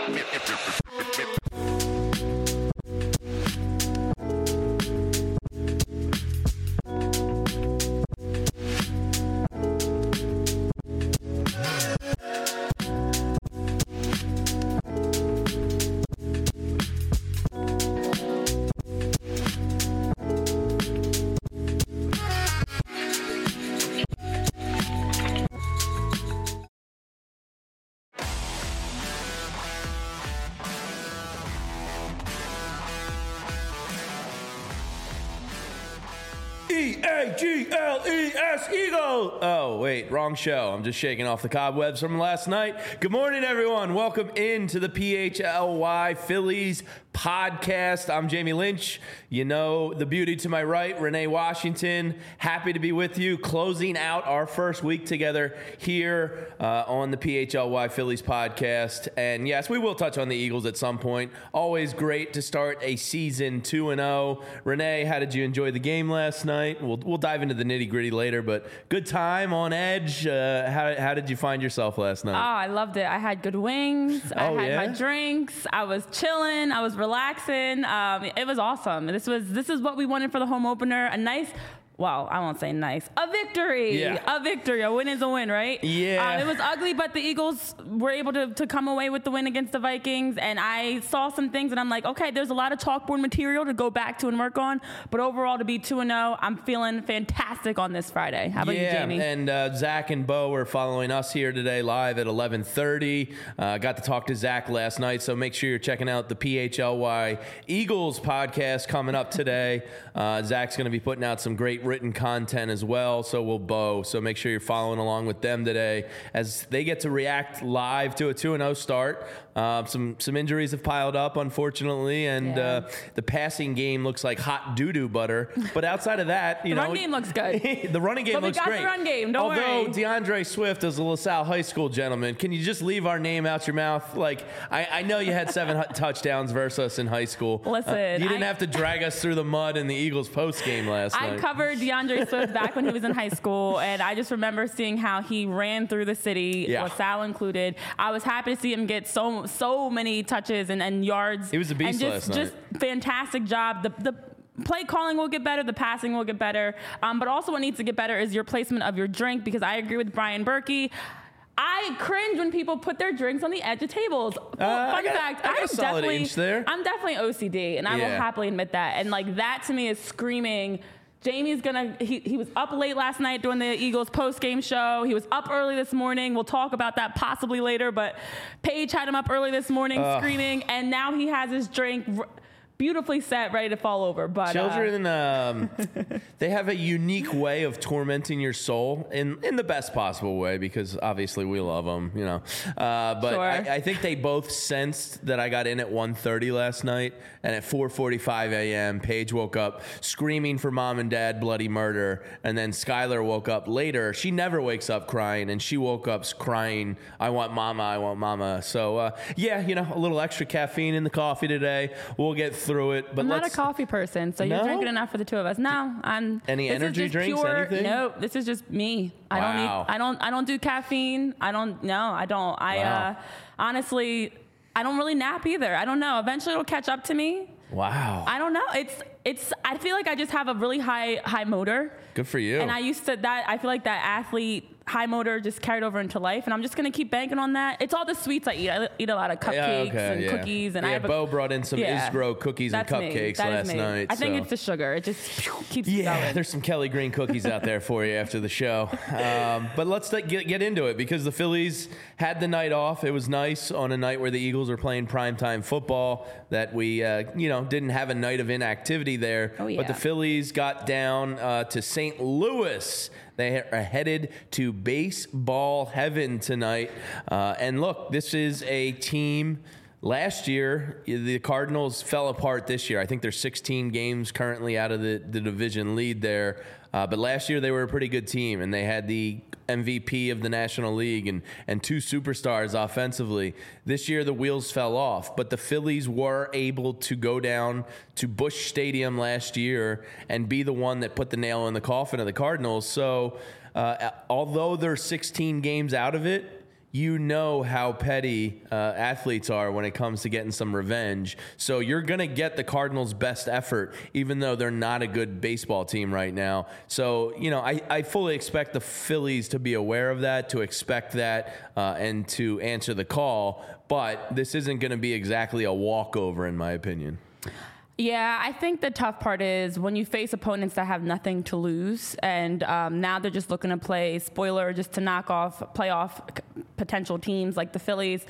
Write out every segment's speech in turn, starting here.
E-A-G-L-E-S, Eagle. Oh, wait, wrong show. I'm just shaking off the cobwebs from last night. Good morning, everyone. Welcome into the PHLY Phillies podcast. I'm Jamie Lynch. You know the beauty to my right, Renee Washington. Happy to be with you, closing out our first week together here on the PHLY Phillies podcast. And yes, we will touch on the Eagles at some point. Always great to start a season 2-0. Renee, how did you enjoy the game last night? We'll dive into the nitty-gritty later, but good time on edge. How did you find yourself last night? Oh, I loved it. I had good wings. I had my drinks. I was chilling. I was relaxing. It was awesome. This is what we wanted for the home opener. A nice, well, I won't say nice, a victory. Yeah. A victory. A win is a win, right? Yeah. It was ugly, but the Eagles were able to come away with the win against the Vikings, and I saw some things, and I'm like, okay, there's a lot of chalkboard material to go back to and work on, but overall, to be 2-0, I'm feeling fantastic on this Friday. How about you, Jamie? Yeah, and Zach and Bo are following us here today live at 11:30. Got to talk to Zach last night, so make sure you're checking out the PHLY Eagles podcast coming up today. Zach's going to be putting out some great written content as well, so will Bo. So make sure you're following along with them today as they get to react live to a 2-0 start. Some injuries have piled up, unfortunately, and the passing game looks like hot doo-doo butter. But outside of that, the run game looks good. The running game looks great. But we got the run game, don't worry. Although DeAndre Swift is a LaSalle High School gentleman, can you just leave our name out your mouth? Like, I know you had 7 touchdowns versus us in high school. Listen. You didn't have to drag us through the mud in the Eagles post game last night. I covered DeAndre Swift back when he was in high school, and I just remember seeing how he ran through the city, LaSalle included. I was happy to see him get so many touches and yards. He was a beast last night. Just fantastic job. The play calling will get better. The passing will get better. But also what needs to get better is your placement of your drink, because I agree with Brian Berkey. I cringe when people put their drinks on the edge of tables. Fun fact, I'm definitely OCD, and I will happily admit that. And like that to me is screaming, Jamie's he was up late last night doing the Eagles post-game show. He was up early this morning. We'll talk about that possibly later, but Paige had him up early this morning screaming, and now he has his drink beautifully set, ready to fall over. But children, they have a unique way of tormenting your soul in the best possible way, because obviously we love them, you know. But sure. I think they both sensed that I got in at 1:30 last night, and at 4:45 a.m., Paige woke up screaming for mom and dad bloody murder, and then Skylar woke up later. She never wakes up crying, and she woke up crying, I want mama. So, yeah, you know, a little extra caffeine in the coffee today. We'll get through it. But I'm not a coffee person, so you're drinking enough for the two of us. No, any energy drinks, anything? No, this is just me. I don't do caffeine. I don't. Honestly, I don't really nap either. I don't know. Eventually it'll catch up to me. Wow. I don't know. I feel like I just have a really high motor. Good for you. And I feel like that athlete high motor just carried over into life, and I'm just going to keep banking on that. It's all the sweets I eat. I eat a lot of cupcakes and cookies. And Bo brought in some Isgro cookies and cupcakes last night. I think it's the sugar. It just keeps me going. There's some Kelly Green cookies out there for you after the show. But let's get into it, because the Phillies had the night off. It was nice on a night where the Eagles were playing primetime football that we didn't have a night of inactivity there. Oh, yeah. But the Phillies got down to St. Louis. They are headed to baseball heaven tonight. And look, this is a team. Last year, the Cardinals fell apart this year. I think there's 16 games currently out of the division lead there. But last year, they were a pretty good team, and they had the MVP of the National League and 2 superstars offensively. This year, the wheels fell off, but the Phillies were able to go down to Busch Stadium last year and be the one that put the nail in the coffin of the Cardinals. So although they're 16 games out of it, you know how petty athletes are when it comes to getting some revenge. So you're going to get the Cardinals' best effort, even though they're not a good baseball team right now. So, I fully expect the Phillies to be aware of that, to expect that, and to answer the call. But this isn't going to be exactly a walkover, in my opinion. Yeah, I think the tough part is when you face opponents that have nothing to lose, and now they're just looking to play spoiler just to knock off playoff potential teams like the Phillies.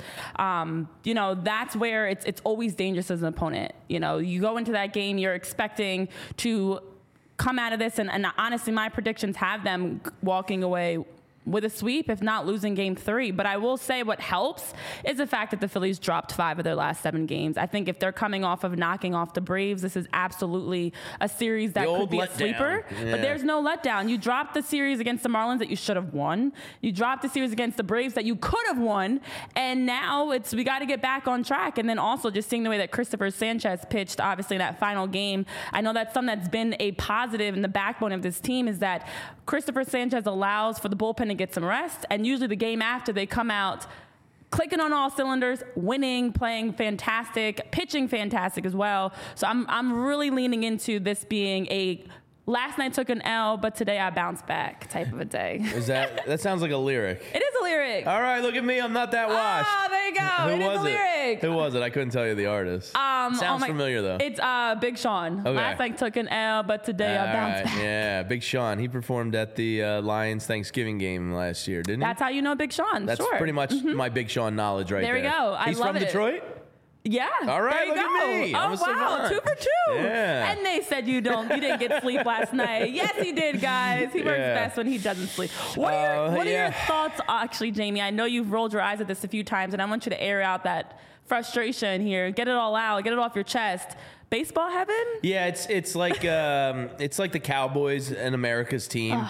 That's where it's always dangerous as an opponent. You go into that game, you're expecting to come out of this, and honestly, my predictions have them walking away with a sweep, if not losing game 3. But I will say what helps is the fact that the Phillies dropped 5 of their last 7 games. I think if they're coming off of knocking off the Braves, this is absolutely a series that could be a sleeper. Yeah. But there's no letdown. You dropped the series against the Marlins that you should have won. You dropped the series against the Braves that you could have won. And now we got to get back on track. And then also just seeing the way that Christopher Sanchez pitched, obviously, in that final game. I know that's something that's been a positive in the backbone of this team is that Christopher Sanchez allows for the bullpen to get some rest, and usually the game after they come out clicking on all cylinders, winning, playing fantastic, pitching fantastic as well. So I'm really leaning into this being a last night took an L, but today I bounced back type of a day. That sounds like a lyric. It is a lyric. All right, look at me. I'm not that washed. Oh, there you go. It is a lyric. Who was it? I couldn't tell you the artist. Sounds familiar, though. It's Big Sean. Okay. Last night took an L, but today I bounced back. Yeah, Big Sean. He performed at the Lions Thanksgiving game last year, didn't he? That's how you know Big Sean. That's pretty much my Big Sean knowledge right there. There we go. He's from Detroit? Yeah. All right, there you look go. at me. Oh, wow. 2 for 2. Yeah. And they said you didn't get sleep last night. Yes, he did, guys. He works best when he doesn't sleep. What are your thoughts, actually, Jamie? I know you've rolled your eyes at this a few times, and I want you to air out that frustration here. Get it all out. Get it off your chest. Baseball heaven? Yeah, it's like the Cowboys and America's team.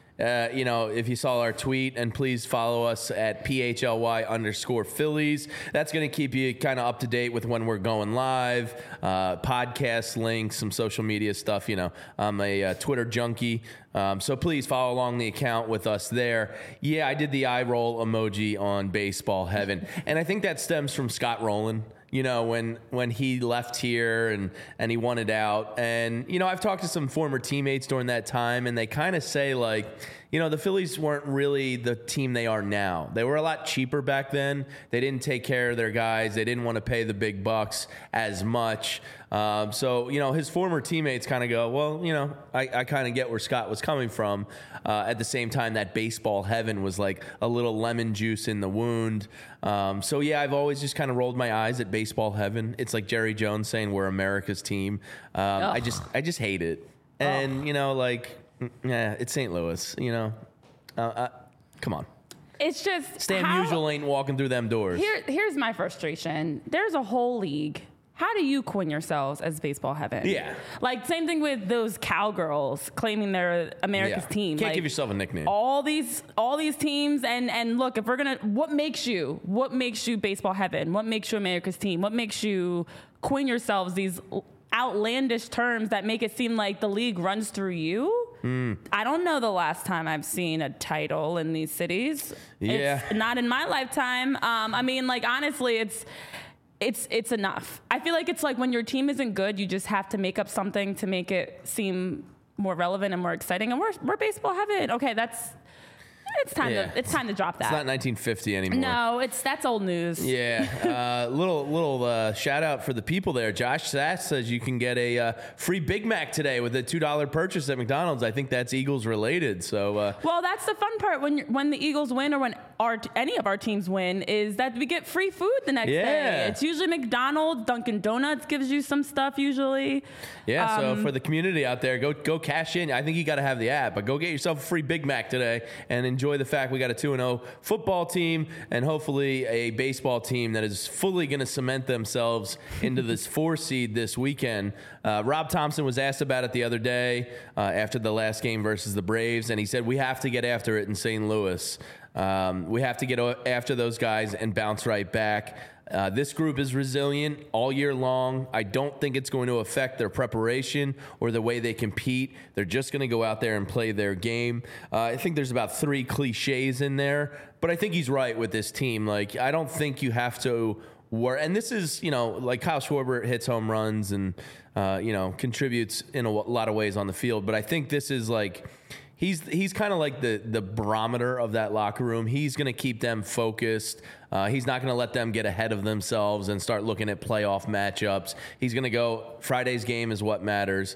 If you saw our tweet, and please follow us at PHLY_Phillies. That's going to keep you kind of up to date with when we're going live, podcast links, some social media stuff. I'm a Twitter junkie. So please follow along the account with us there. Yeah, I did the eye roll emoji on Baseball Heaven. And I think that stems from Scott Rowland. When he left here and he wanted out. And, I've talked to some former teammates during that time, and they kind of say, the Phillies weren't really the team they are now. They were a lot cheaper back then. They didn't take care of their guys. They didn't want to pay the big bucks as much. So his former teammates kind of go, well, I kind of get where Scott was coming from. At the same time, that Baseball Heaven was like a little lemon juice in the wound. I've always just kind of rolled my eyes at Baseball Heaven. It's like Jerry Jones saying we're America's team. I just hate it. And, it's St. Louis, come on. It's just Stan Musial ain't walking through them doors. Here's my frustration. There's a whole league. How do you coin yourselves as Baseball Heaven? Yeah. Same thing with those cowgirls claiming they're America's team. Can't give yourself a nickname. All these teams and look, if we're gonna, what makes you Baseball Heaven? What makes you America's team? What makes you coin yourselves these outlandish terms that make it seem like the league runs through you? I don't know the last time I've seen a title in these cities. Yeah. It's not in my lifetime. Honestly, it's enough. I feel like it's like when your team isn't good, you just have to make up something to make it seem more relevant and more exciting. And we're Baseball Heaven. Okay, it's time to drop that. It's not 1950 anymore. No, that's old news. Yeah. Little shout out for the people there. Josh Sass says you can get a free Big Mac today with a $2 purchase at McDonald's. I think that's Eagles related. So well, that's the fun part when the Eagles win or when any of our teams win is that we get free food the next day. It's usually McDonald's, Dunkin' Donuts gives you some stuff usually. Yeah. So for the community out there, go cash in. I think you got to have the app, but go get yourself a free Big Mac today and enjoy the fact we got a 2-0 football team and hopefully a baseball team that is fully going to cement themselves into this 4 seed this weekend. Rob Thompson was asked about it the other day after the last game versus the Braves, and he said we have to get after it in St. Louis. We have to get after those guys and bounce right back. This group is resilient all year long. I don't think it's going to affect their preparation or the way they compete. They're just going to go out there and play their game. I think there's about 3 cliches in there, but I think he's right with this team. Like, I don't think you have to worry. And this is, like Kyle Schwarber hits home runs and, contributes in a lot of ways on the field. But I think this is like, he's kind of like the barometer of that locker room. He's going to keep them focused. He's not going to let them get ahead of themselves and start looking at playoff matchups. He's going to go, Friday's game is what matters.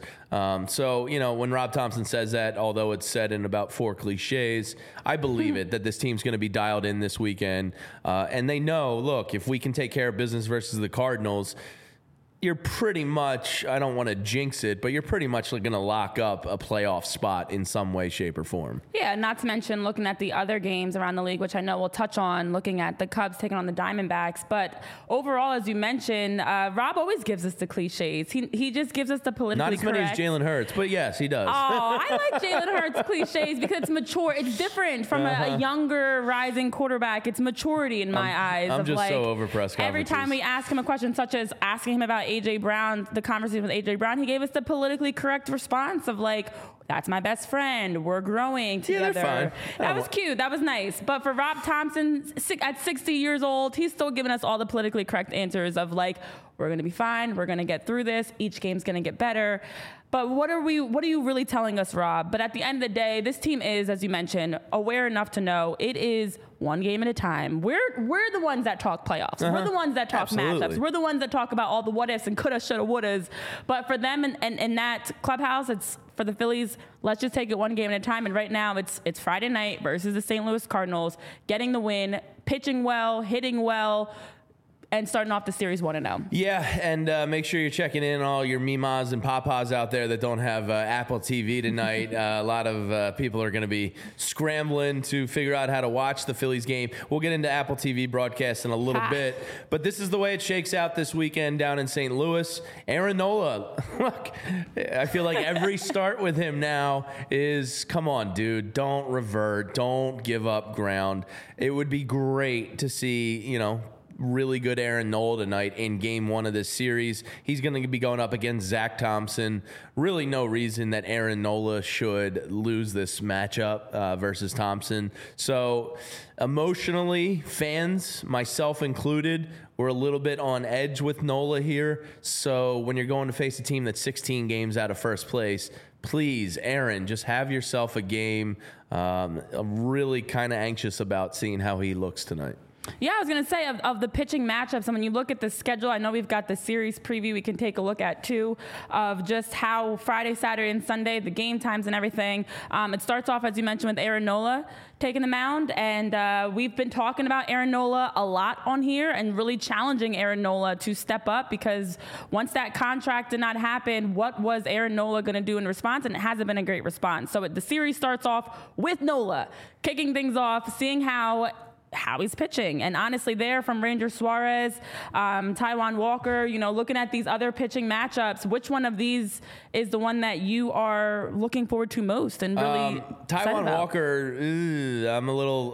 So, when Rob Thompson says that, although it's said in about 4 cliches, I believe it, that this team's going to be dialed in this weekend. And they know, look, if we can take care of business versus the Cardinals, you're pretty much, I don't want to jinx it, but you're pretty much going to lock up a playoff spot in some way, shape, or form. Yeah, not to mention looking at the other games around the league, which I know we'll touch on, looking at the Cubs taking on the Diamondbacks. But overall, as you mentioned, Rob always gives us the cliches. He just gives us the politically correct. Not as many as Jalen Hurts, but yes, he does. Oh, I like Jalen Hurts cliches because it's mature. It's different from a younger, rising quarterback. It's maturity in my eyes. I'm just so over press conferences. Every time we ask him a question, such as asking him about A.J. Brown, the conversation with A.J. Brown, he gave us the politically correct response of like, that's my best friend. We're growing together. Yeah, they're fine. That was cute. That was nice. But for Rob Thompson, at 60 years old, he's still giving us all the politically correct answers of like, we're going to be fine. We're going to get through this. Each game's going to get better. But what are you really telling us, Rob? But at the end of the day, this team is, as you mentioned, aware enough to know it is one game at a time. We're the ones that talk playoffs. We're the ones that talk matchups. We're the ones that talk about all the what ifs and coulda, shoulda, wouldas. But for them and that clubhouse, it's for the Phillies, let's just take it one game at a time. And right now it's Friday night versus the St. Louis Cardinals, getting the win, pitching well, hitting well, and starting off the series 1-0. Yeah, and make sure you're checking in all your mimas and papas out there that don't have Apple TV tonight. A lot of people are going to be scrambling to figure out how to watch the Phillies game. We'll get into Apple TV broadcast in a little bit, but this is the way it shakes out this weekend down in St. Louis. Aaron Nola, look, I feel like every start with him now is, come on, dude, don't revert, don't give up ground. It would be great to see, really good Aaron Nola tonight in game 1 of this series. He's going to be going up against Zach Thompson. Really no reason that Aaron Nola should lose this matchup versus Thompson. So emotionally, fans, myself included, we're a little bit on edge with Nola here. So when you're going to face a team that's 16 games out of first place, please, Aaron, just have yourself a game. I'm really kind of anxious about seeing how he looks tonight. Yeah, I was going to say of the pitching matchups, and when you look at the schedule, I know we've got the series preview we can take a look at too, of just how Friday, Saturday, and Sunday, the game times and everything. It starts off, as you mentioned, with Aaron Nola taking the mound, and we've been talking about Aaron Nola a lot on here and really challenging Aaron Nola to step up, because once that contract did not happen, what was Aaron Nola going to do in response? And it hasn't been a great response. So the series starts off with Nola kicking things off, seeing how he's pitching. And honestly, there from Ranger Suarez, Taijuan Walker, looking at these other pitching matchups, which one of these is the one that you are looking forward to most and really Taijuan Walker, I'm a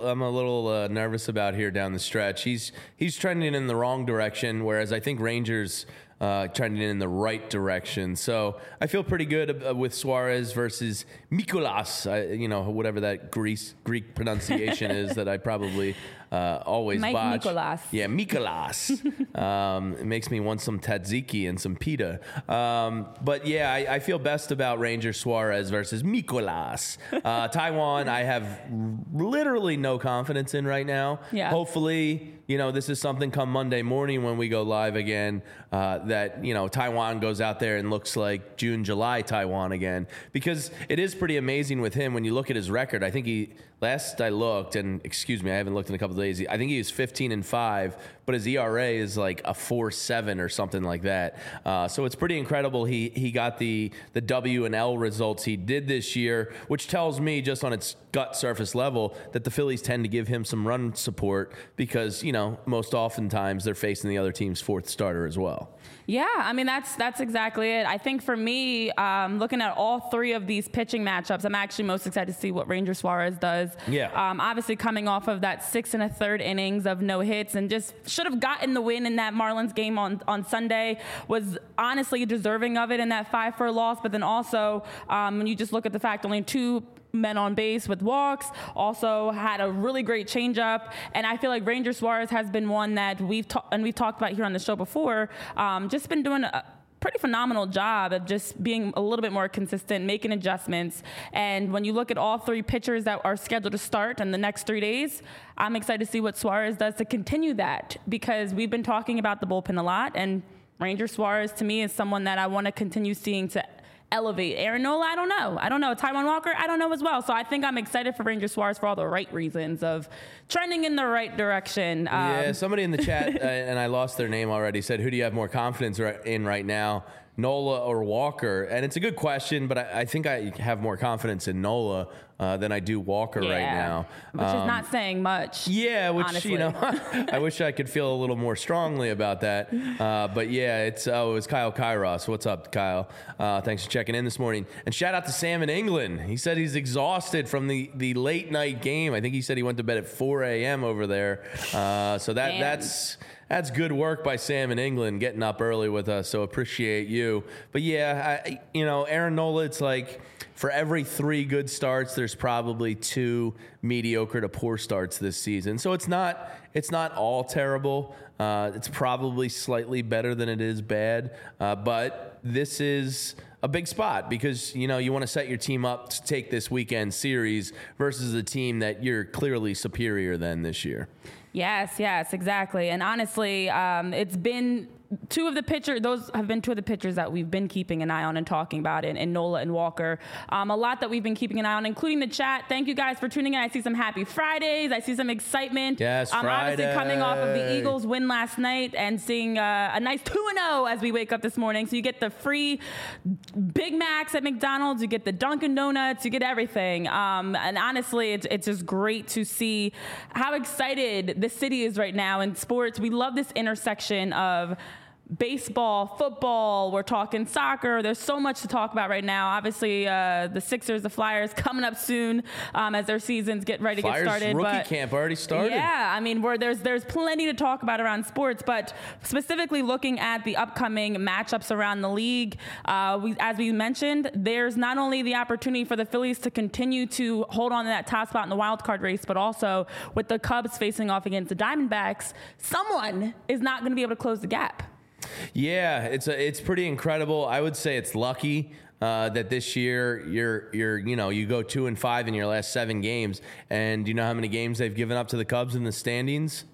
little nervous about here down the stretch. He's trending in the wrong direction, whereas I think Rangers trending in the right direction. So I feel pretty good with Suarez versus Mikolas, whatever that Greek pronunciation is that I probably always botch. Mikolas. Yeah, Mikolas. It makes me want some tzatziki and some pita. But yeah, I feel best about Ranger Suarez versus Mikolas. Taijuan, I have literally no confidence in right now. Yeah. Hopefully, this is something come Monday morning when we go live again, that, Taijuan goes out there and looks like June, July Taijuan again. Because it is pretty amazing with him when you look at his record. I think last I looked, and excuse me, I haven't looked in a couple of days, I think he was 15-5, but his ERA is like a 4.7 or something like that. So it's pretty incredible. He got the W and L results he did this year, which tells me just on its gut surface level that the Phillies tend to give him some run support because, most oftentimes they're facing the other team's fourth starter as well. Yeah, I mean, that's exactly it. I think for me, looking at all 3 of these pitching matchups, I'm actually most excited to see what Ranger Suarez does. Yeah. Obviously coming off of that 6 1/3 innings of no hits and just should have gotten the win in that Marlins game on Sunday, was honestly deserving of it in that 5-4 loss. But then also when you just look at the fact only 2 men on base with walks, also had a really great changeup. And I feel like Ranger Suarez has been one that we've talked about here on the show before, just been doing a pretty phenomenal job of just being a little bit more consistent, making adjustments. And when you look at all 3 pitchers that are scheduled to start in the next 3 days, I'm excited to see what Suarez does to continue that, because we've been talking about the bullpen a lot, and Ranger Suarez to me is someone that I want to continue seeing to elevate. Aaron Nola, I don't know. Taijuan Walker, I don't know as well. So I think I'm excited for Ranger Suarez for all the right reasons of trending in the right direction. Yeah, somebody in the chat, and I lost their name already, said, who do you have more confidence in right now, Nola or Walker? And it's a good question, but I think I have more confidence in Nola than I do Walker right now. Which is not saying much. Yeah, which, honestly. I wish I could feel a little more strongly about that. But yeah, it was Kyle Kairos. What's up, Kyle? Thanks for checking in this morning. And shout out to Sam in England. He said he's exhausted from the late night game. I think he said he went to bed at 4 a.m. over there. So that's good work by Sam in England, getting up early with us. So appreciate you. But yeah, Aaron Nola, it's like for every 3 good starts, there's probably 2 mediocre to poor starts this season. So it's not all terrible. It's probably slightly better than it is bad. But this is a big spot because, you want to set your team up to take this weekend series versus a team that you're clearly superior than this year. Yes, exactly. And honestly, it's been 2 of the pitchers. Those have been 2 of the pitchers that we've been keeping an eye on and talking about in Nola and Walker. A lot that we've been keeping an eye on, including the chat. Thank you guys for tuning in. I see some happy Fridays. I see some excitement. Yes, Friday. Obviously coming off of the Eagles win last night and seeing a nice 2-0 as we wake up this morning. So you get the free Big Macs at McDonald's. You get the Dunkin' Donuts. You get everything. And honestly, it's just great to see how excited the city is right now in sports. We love this intersection of baseball, football, we're talking soccer. There's so much to talk about right now. Obviously, the Sixers, the Flyers coming up soon as their seasons get ready to get started. Flyers rookie camp already started. Yeah, I mean, there's plenty to talk about around sports, but specifically looking at the upcoming matchups around the league, as we mentioned, there's not only the opportunity for the Phillies to continue to hold on to that top spot in the wild card race, but also with the Cubs facing off against the Diamondbacks, someone is not going to be able to close the gap. Yeah, it's pretty incredible. I would say it's lucky that this year you go 2-5 in your last 7 games, and do you know how many games they've given up to the Cubs in the standings?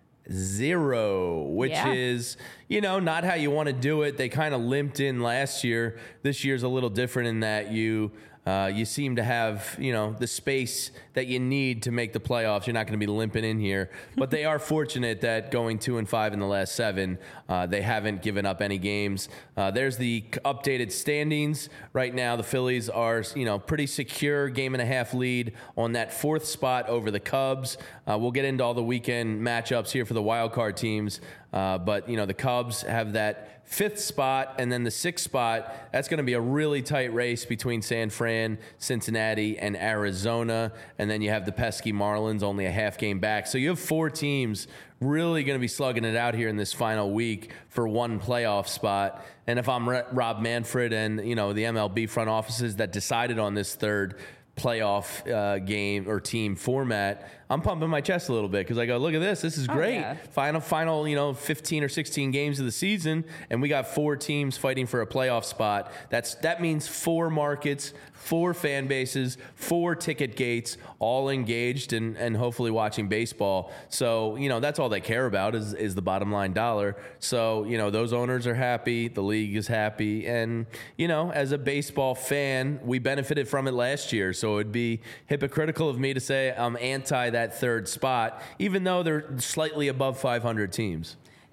0, which is not how you want to do it. They kind of limped in last year. This year's a little different in that you seem to have, the space that you need to make the playoffs. You're not going to be limping in here. But they are fortunate that going 2-5 in the last 7, they haven't given up any games. There's the updated standings. Right now, the Phillies are, pretty secure, 1.5 game lead on that 4th spot over the Cubs. We'll get into all the weekend matchups here for the wild card teams. But, the Cubs have that 5th spot, and then the 6th spot. That's going to be a really tight race between San Fran, Cincinnati, and Arizona. And then you have the pesky Marlins, only a half game back. So you have 4 teams really going to be slugging it out here in this final week for 1 playoff spot. And if I'm Rob Manfred and, the MLB front offices that decided on this 3rd playoff game or team format, I'm pumping my chest a little bit because I go, look at this. This is great. Yeah. Final, 15 or 16 games of the season, and we got 4 teams fighting for a playoff spot. That means 4 markets, 4 fan bases, 4 ticket gates, all engaged and hopefully watching baseball. So, that's all they care about is the bottom line dollar. So, those owners are happy. The league is happy. And, as a baseball fan, we benefited from it last year. So it'd be hypocritical of me to say I'm anti that 3rd spot, even though they're slightly above 500 teams.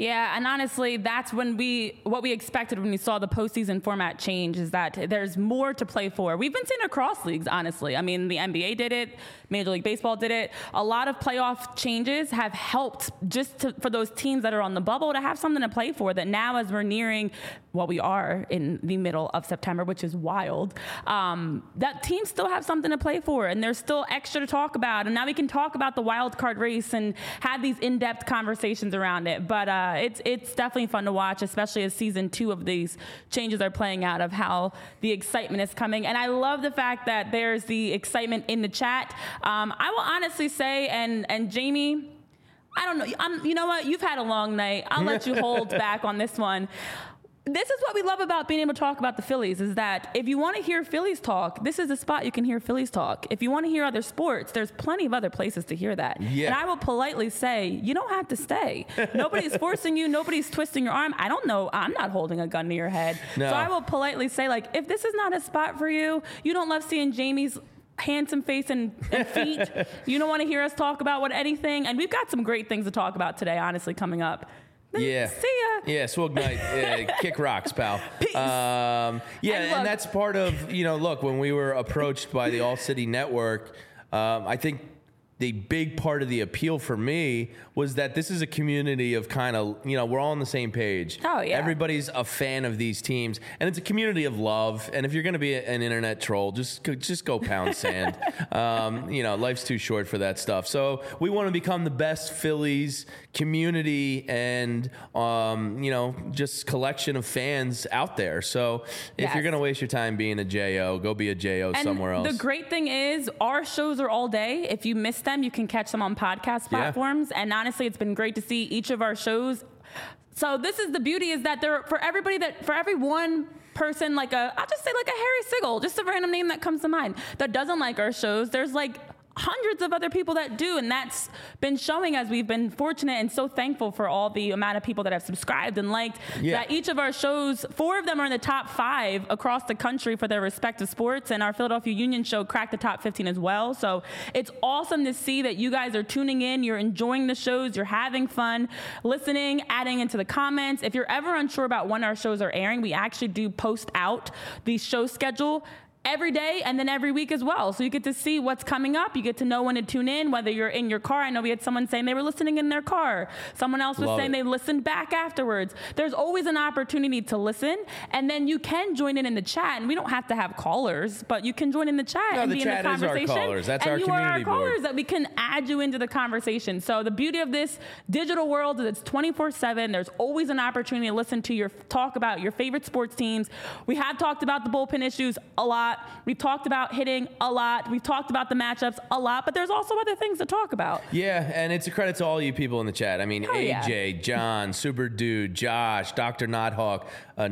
Yeah, and honestly, that's what we expected when we saw the postseason format change, is that there's more to play for. We've been seeing across leagues, honestly. I mean, the NBA did it, Major League Baseball did it. A lot of playoff changes have helped for those teams that are on the bubble to have something to play for, that now as we're nearing, well, we are in the middle of September, which is wild, that teams still have something to play for, and there's still extra to talk about. And now we can talk about the wild card race and have these in-depth conversations around it. But it's definitely fun to watch, especially as season 2 of these changes are playing out, of how the excitement is coming. And I love the fact that there's the excitement in the chat. I will honestly say, and Jamie, I don't know. You know what? You've had a long night. I'll let you hold back on this one. This is what we love about being able to talk about the Phillies, is that if you want to hear Phillies talk, this is a spot you can hear Phillies talk. If you want to hear other sports, there's plenty of other places to hear that. Yeah. And I will politely say, you don't have to stay. Nobody's forcing you. Nobody's twisting your arm. I don't know. I'm not holding a gun to your head. No. So I will politely say, like, if this is not a spot for you, you don't love seeing Jamie's handsome face and feet, you don't want to hear us talk about anything. And we've got some great things to talk about today, honestly, coming up. Yeah. See ya. Yeah, Swag Night. Kick rocks, pal. Peace. And that's part of, look, when we were approached by the All City Network, I think the big part of the appeal for me was that this is a community of kind of, we're all on the same page. Oh, yeah. Everybody's a fan of these teams, and it's a community of love. And if you're going to be an internet troll, just go pound sand. Life's too short for that stuff. So we want to become the best Phillies community and, just collection of fans out there. So if you're going to waste your time being a JO, go be a JO somewhere else. The great thing is our shows are all day. If you miss them, you can catch them on podcast platforms. Yeah. And honestly, it's been great to see each of our shows. So this is the beauty, is that for every one person, I'll just say like a Harry Sigel, just a random name that comes to mind, that doesn't like our shows, there's like hundreds of other people that do, and that's been showing as we've been fortunate and so thankful for all the amount of people that have subscribed and liked that each of our shows, 4 of them are in the top 5 across the country for their respective sports, and our Philadelphia Union show cracked the top 15 as well. So it's awesome to see that you guys are tuning in, you're enjoying the shows, you're having fun listening, adding into the comments. If you're ever unsure about when our shows are airing, we actually do post out the show schedule every day and then every week as well. So you get to see what's coming up. You get to know when to tune in, whether you're in your car. I know we had someone saying they were listening in their car. Someone else was saying they listened back afterwards. There's always an opportunity to listen, and then you can join in the chat. And we don't have to have callers, but you can join in the chat and be in the conversation. Is our callers. That's our community board. And you are our callers that we can add you into the conversation. So the beauty of this digital world is it's 24/7. There's always an opportunity to listen to talk about your favorite sports teams. We have talked about the bullpen issues a lot. We've talked about hitting a lot. We've talked about the matchups a lot, but there's also other things to talk about. Yeah, and it's a credit to all you people in the chat. I mean, AJ, John, Super Dude, Josh, Dr. Nighthawk,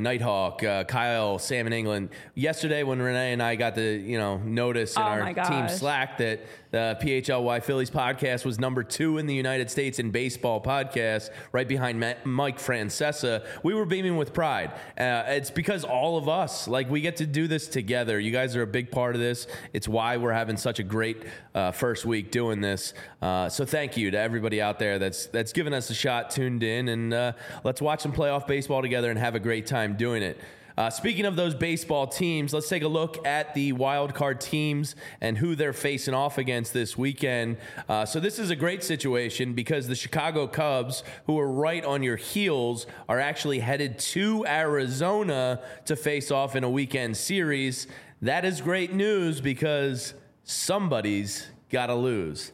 Kyle, Sam in England. Yesterday when Renee and I got the notice in our team Slack that the PHLY Phillies podcast was number 2 in the United States in baseball podcasts, right behind Mike Francesa, we were beaming with pride. It's because all of us, we get to do this together. You guys are a big part of this. It's why we're having such a great first week doing this. So thank you to everybody out there that's given us a shot, tuned in, and let's watch some playoff baseball together and have a great time doing it. Speaking of those baseball teams, let's take a look at the wild card teams and who they're facing off against this weekend. So this is a great situation because the Chicago Cubs, who are right on your heels, are actually headed to Arizona to face off in a weekend series. That is great news because somebody's got to lose.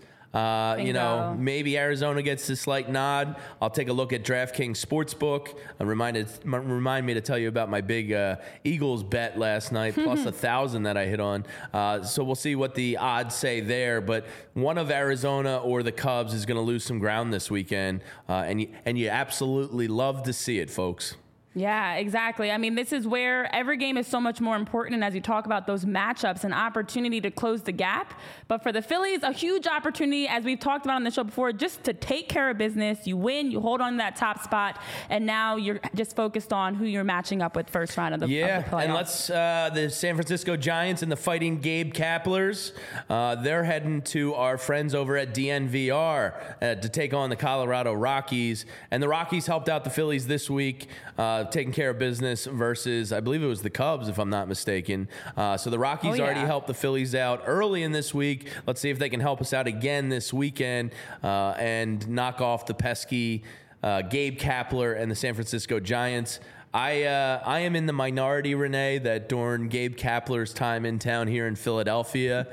Maybe Arizona gets this slight nod. I'll take a look at DraftKings Sportsbook. Remind me to tell you about my big Eagles bet last night, plus 1,000 that I hit on. So we'll see what the odds say there. But one of Arizona or the Cubs is going to lose some ground this weekend, and you absolutely love to see it, folks. Yeah, exactly. I mean, this is where every game is so much more important. And as you talk about those matchups, an opportunity to close the gap. But for the Phillies, a huge opportunity, as we've talked about on the show before, just to take care of business. You win, you hold on to that top spot, and now you're just focused on who you're matching up with first round of the playoffs. And let's the San Francisco Giants and the Fighting Gabe Kaplers, they're heading to our friends over at DNVR to take on the Colorado Rockies. And the Rockies helped out the Phillies this week, taking care of business versus, I believe it was the Cubs, if I'm not mistaken. So the Rockies already helped the Phillies out early in this week. Let's see if they can help us out again this weekend and knock off the pesky Gabe Kapler and the San Francisco Giants. I am in the minority, Renee, that during Gabe Kapler's time in town here in Philadelphia,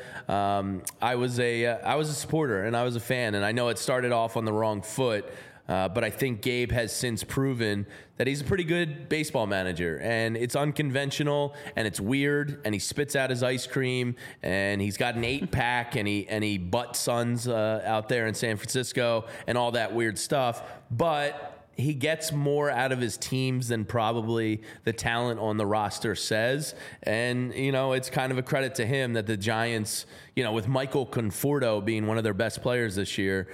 I was a supporter and I was a fan, and I know it started off on the wrong foot. But I think Gabe has since proven that he's a pretty good baseball manager, and it's unconventional and it's weird, and he spits out his ice cream, and he's got an 8-pack, and he butt Suns out there in San Francisco and all that weird stuff. But he gets more out of his teams than probably the talent on the roster says. And, it's kind of a credit to him that the Giants, with Michael Conforto being one of their best players this year,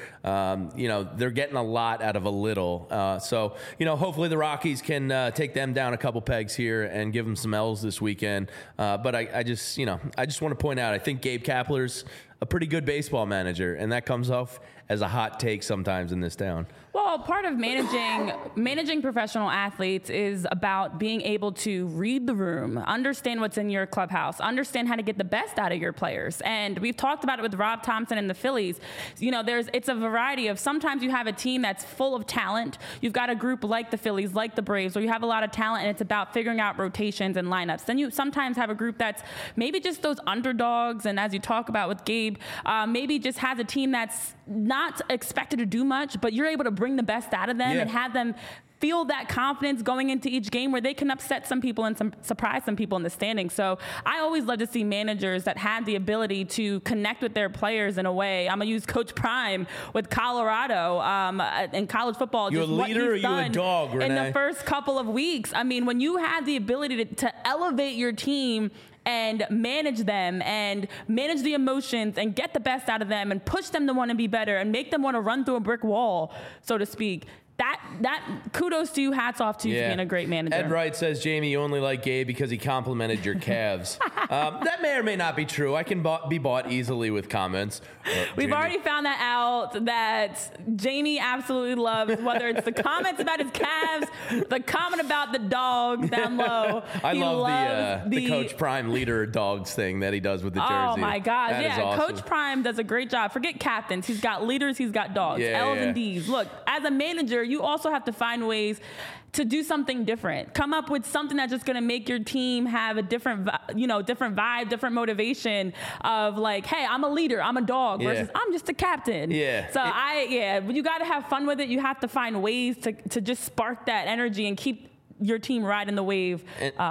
they're getting a lot out of a little. So, hopefully the Rockies can take them down a couple pegs here and give them some L's this weekend. But I just want to point out, I think Gabe Kapler's a pretty good baseball manager, and that comes off as a hot take sometimes in this town. Well, part of managing professional athletes is about being able to read the room, understand what's in your clubhouse, understand how to get the best out of your players. And we've talked about it with Rob Thompson and the Phillies. It's a variety of, sometimes you have a team that's full of talent. You've got a group like the Phillies, like the Braves, where you have a lot of talent, and it's about figuring out rotations and lineups. Then you sometimes have a group that's maybe just those underdogs, and as you talk about with Gabe, maybe just has a team that's not expected to do much, but you're able to bring the best out of them and have them feel that confidence going into each game where they can upset some people and surprise some people in the standings. So I always love to see managers that had the ability to connect with their players in a way. I'm going to use Coach Prime with Colorado in college football. You a leader or you a dog, Renee? In the first couple of weeks. I mean, when you had the ability to elevate your team and manage them and manage the emotions and get the best out of them and push them to want to be better and make them want to run through a brick wall, so to speak. That kudos to you, hats off to you for being a great manager. Ed Wright says, Jamie, you only like Gabe because he complimented your calves. That may or may not be true. I can be bought easily with comments. We've already found that out, that Jamie absolutely loves, whether it's the comments about his calves, the comment about the dog down low. I love the Coach Prime leader dogs thing that he does with the jersey. Oh, my God. That is awesome. Coach Prime does a great job. Forget captains. He's got leaders. He's got dogs. L's and D's. Look, as a manager, you also have to find ways to do something different. Come up with something that's just going to make your team have a different vibe, different motivation of like, hey, I'm a leader, I'm a dog versus I'm just a captain. So you got to have fun with it. You have to find ways to just spark that energy and keep your team riding the wave.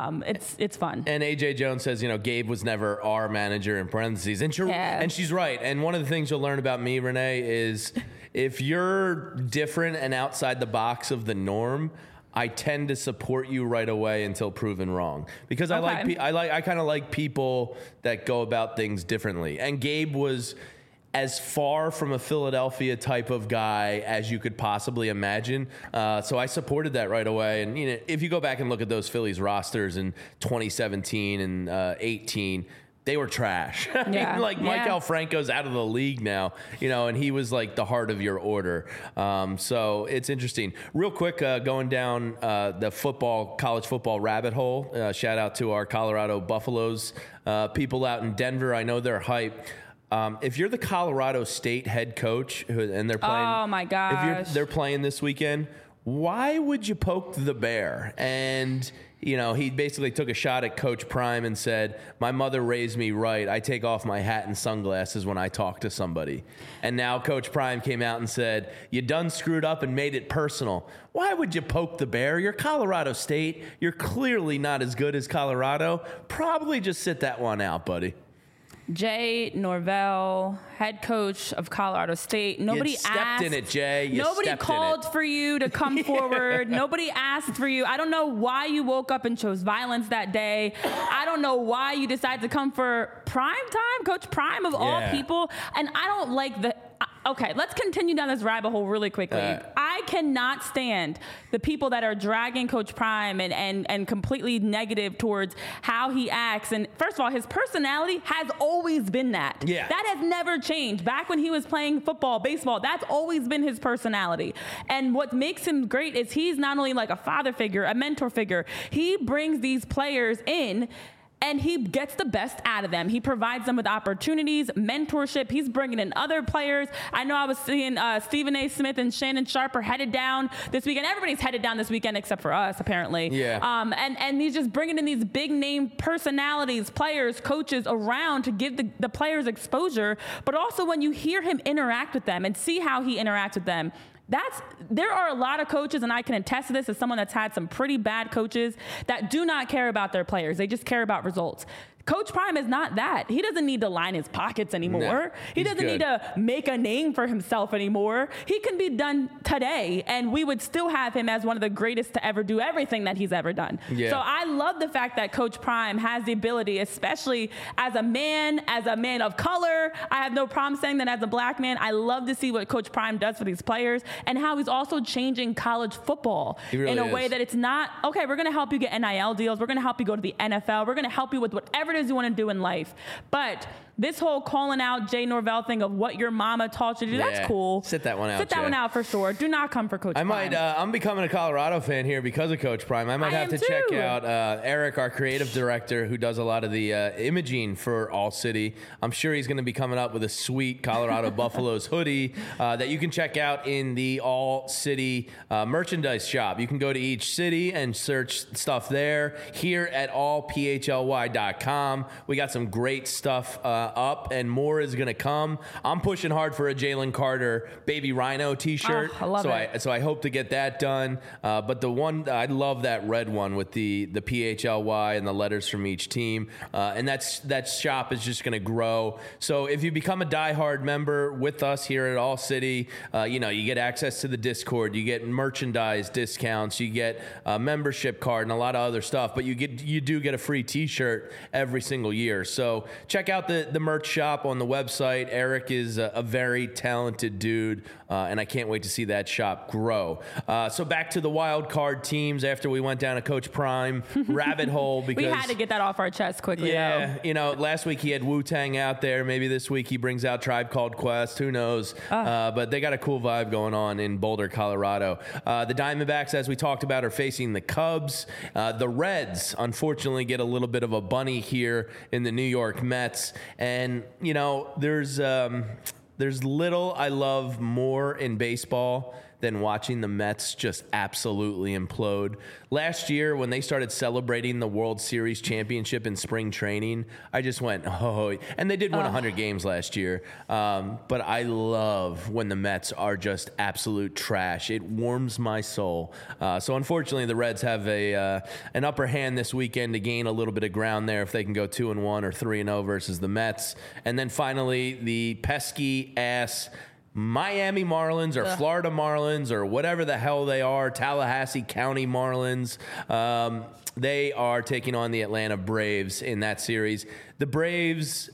It's fun. And AJ Jones says, Gabe was never our manager in parentheses. And she's right. And one of the things you'll learn about me, Renee, is if you're different and outside the box of the norm, I tend to support you right away until proven wrong, because I kind of like people that go about things differently. And Gabe was as far from a Philadelphia type of guy as you could possibly imagine. So I supported that right away. And if you go back and look at those Phillies rosters in 2017 and 18, they were trash. Mike Alfranco's out of the league now, and he was like the heart of your order. So it's interesting. Real quick, going down the college football rabbit hole. Shout out to our Colorado Buffaloes people out in Denver. I know they're hype. If you're the Colorado State head coach and they're playing, oh my gosh, if they're playing this weekend, why would you poke the bear? And he basically took a shot at Coach Prime and said, my mother raised me right. I take off my hat and sunglasses when I talk to somebody. And now Coach Prime came out and said, you done screwed up and made it personal. Why would you poke the bear? You're Colorado State. You're clearly not as good as Colorado. Probably just sit that one out, buddy. Jay Norvell, head coach of Colorado State. Nobody stepped in it, Jay. Nobody called for you to come forward. Nobody asked for you. I don't know why you woke up and chose violence that day. I don't know why you decided to come for Prime Time, Coach Prime of all people. And I don't like the... Okay, let's continue down this rabbit hole really quickly. I cannot stand the people that are dragging Coach Prime and completely negative towards how he acts. And first of all, his personality has always been that. Yeah. That has never changed. Back when he was playing football, baseball, that's always been his personality. And what makes him great is he's not only like a father figure, a mentor figure, he brings these players in and he gets the best out of them. He provides them with opportunities, mentorship. He's bringing in other players. I know I was seeing Stephen A. Smith and Shannon Sharpe are headed down this weekend. Everybody's headed down this weekend except for us, apparently. Yeah. And he's just bringing in these big name personalities, players, coaches around to give the players exposure. But also when you hear him interact with them and see how he interacts with them, there are a lot of coaches, and I can attest to this as someone that's had some pretty bad coaches that do not care about their players. They just care about results. Coach Prime is not that. He doesn't need to line his pockets anymore. No, he doesn't need to make a name for himself anymore. He can be done today, and we would still have him as one of the greatest to ever do everything that he's ever done. Yeah. So I love the fact that Coach Prime has the ability, especially as a man of color. I have no problem saying that as a black man. I love to see what Coach Prime does for these players and how he's also changing college football in a way that it's not, okay, we're going to help you get NIL deals. We're going to help you go to the NFL. We're going to help you with whatever it is you want to do in life. But this whole calling out Jay Norvell thing of what your mama taught you to do, that's cool. Sit that one out, Sit that Jay. one out for sure. Do not come for Coach Prime. I'm becoming a Colorado fan here because of Coach Prime. I might have to check out Eric, our creative director, who does a lot of the imaging for All City. I'm sure he's going to be coming up with a sweet Colorado Buffaloes hoodie that you can check out in the All City merchandise shop. You can go to each city and search stuff there. Here at allphly.com, we got some great stuff up, and more is going to come. I'm pushing hard for a Jalen Carter Baby Rhino t-shirt. I love it. So I hope to get that done. But the one, I love that red one with the PHLY and the letters from each team. And that shop is just going to grow. So if you become a diehard member with us here at All City, you get access to the Discord, you get merchandise discounts, you get a membership card and a lot of other stuff. But you do get a free t-shirt every single year. So check out the merch shop on the website. Eric is a very talented dude, and I can't wait to see that shop grow. So back to the wild card teams after we went down a Coach Prime rabbit hole. Because we had to get that off our chest quickly. Yeah, last week he had Wu-Tang out there. Maybe this week he brings out Tribe Called Quest. Who knows? But they got a cool vibe going on in Boulder, Colorado. The Diamondbacks, as we talked about, are facing the Cubs. The Reds, unfortunately, get a little bit of a bunny here in the New York Mets. And, there's little I love more in baseball than watching the Mets just absolutely implode. Last year, when they started celebrating the World Series championship in spring training, I just went, oh, and they did win 100 games last year. But I love when the Mets are just absolute trash. It warms my soul. So unfortunately, the Reds have an upper hand this weekend to gain a little bit of ground there if they can go 2-1 or 3-0 versus the Mets. And then finally, the pesky ass Miami Marlins or Florida Marlins or whatever the hell they are, Tallahassee County Marlins. They are taking on the Atlanta Braves in that series. The Braves,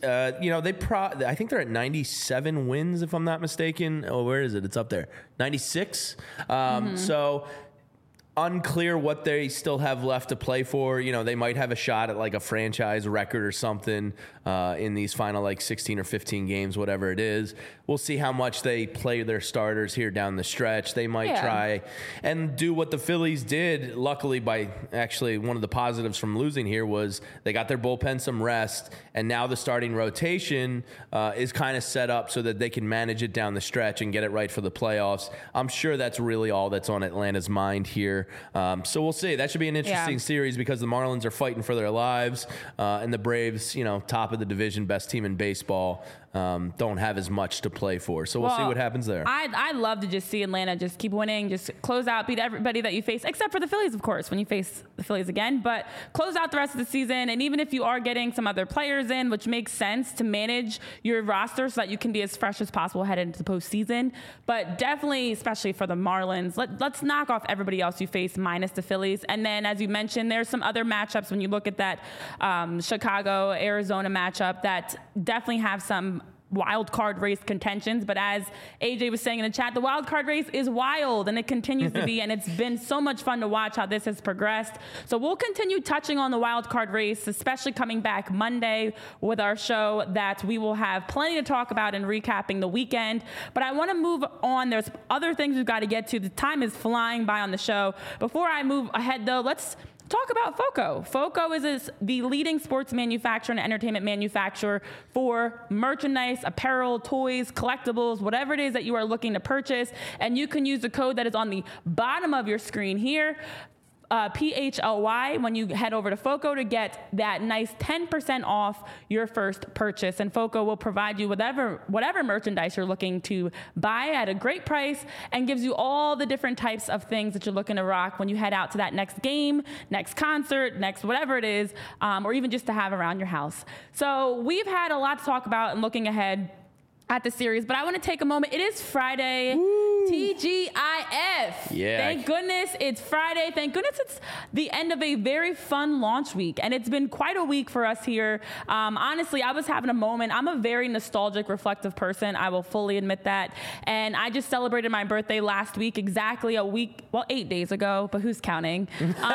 I think they're at 97 wins, if I'm not mistaken. Oh, where is it? It's up there. 96. So unclear what they still have left to play for. They might have a shot at like a franchise record or something in these final 16 or 15 games, whatever it is. We'll see how much they play their starters here down the stretch. They might try and do what the Phillies did. Luckily, by actually one of the positives from losing here was they got their bullpen some rest, and now the starting rotation is kind of set up so that they can manage it down the stretch and get it right for the playoffs. I'm sure that's really all that's on Atlanta's mind here year. So we'll see. That should be an interesting series because the Marlins are fighting for their lives, and the Braves, top of the division, best team in baseball, don't have as much to play for. So we'll see what happens there. I'd love to just see Atlanta just keep winning, just close out, beat everybody that you face, except for the Phillies, of course, when you face the Phillies again. But close out the rest of the season, and even if you are getting some other players in, which makes sense to manage your roster so that you can be as fresh as possible headed into the postseason. But definitely, especially for the Marlins, let's knock off everybody else you face minus the Phillies. And then, as you mentioned, there's some other matchups when you look at that Chicago-Arizona matchup that definitely have some wild card race contentions, but as AJ was saying in the chat, the wild card race is wild and it continues to be, and it's been so much fun to watch how this has progressed. So we'll continue touching on the wild card race, especially coming back Monday with our show that we will have plenty to talk about and recapping the weekend. But I want to move on. There's other things we've got to get to. The time is flying by on the show. Before I move ahead though, let's talk about FOCO. FOCO is the leading sports manufacturer and entertainment manufacturer for merchandise, apparel, toys, collectibles, whatever it is that you are looking to purchase. And you can use the code that is on the bottom of your screen here, PHLY, when you head over to FOCO to get that nice 10% off your first purchase. And FOCO will provide you whatever merchandise you're looking to buy at a great price and gives you all the different types of things that you're looking to rock when you head out to that next game, next concert, next whatever it is, or even just to have around your house. So we've had a lot to talk about and looking ahead at the series, but I want to take a moment. It is Friday. Woo. TGIF. Yeah. Thank goodness it's Friday. Thank goodness it's the end of a very fun launch week. And it's been quite a week for us here. Honestly, I was having a moment. I'm a very nostalgic, reflective person. I will fully admit that. And I just celebrated my birthday last week, exactly 8 days ago, but who's counting?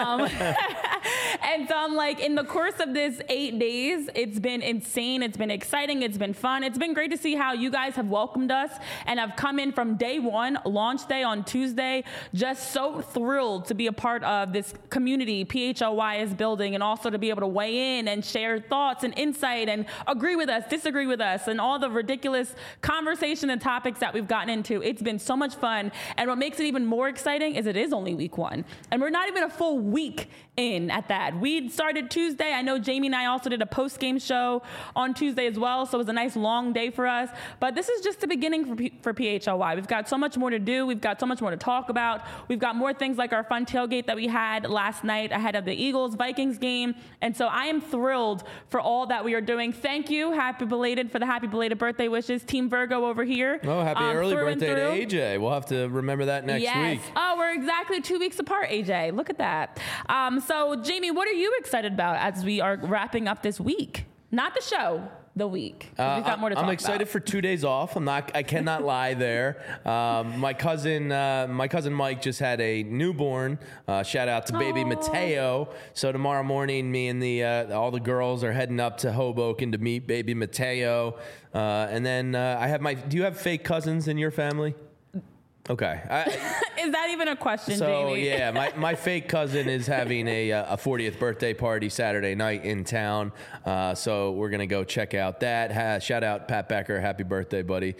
And so I'm like, in the course of this 8 days, it's been insane. It's been exciting. It's been fun. It's been great to see how you guys have welcomed us and have come in from day one, launch day on Tuesday, just so thrilled to be a part of this community PHLY is building, and also to be able to weigh in and share thoughts and insight and agree with us, disagree with us, and all the ridiculous conversation and topics that we've gotten into. It's been so much fun. And what makes it even more exciting is it is only week one. And we're not even a full week in at that. We started Tuesday. I know Jamie and I also did a post-game show on Tuesday as well, so it was a nice long day for us. But this is just the beginning for PHLY. We've got so much more to do. We've got so much more to talk about. We've got more things like our fun tailgate that we had last night ahead of the Eagles-Vikings game. And so I am thrilled for all that we are doing. Thank you. Happy belated birthday wishes. Team Virgo over here. Oh, happy early birthday to AJ. We'll have to remember that next week. Oh, we're exactly 2 weeks apart, AJ. Look at that. So, Jamie, what are you excited about as we are wrapping up this week? Not the show, the week. We've got more to talk about. I'm excited for 2 days off. I cannot lie there. My cousin Mike just had a newborn. Shout out to baby Mateo. So tomorrow morning, me and all the girls are heading up to Hoboken to meet baby Mateo. And then do you have fake cousins in your family? Okay. Is that even a question, so, Jamie? Yeah, my fake cousin is having a 40th birthday party Saturday night in town. So we're going to go check out that. Shout out Pat Becker. Happy birthday, buddy.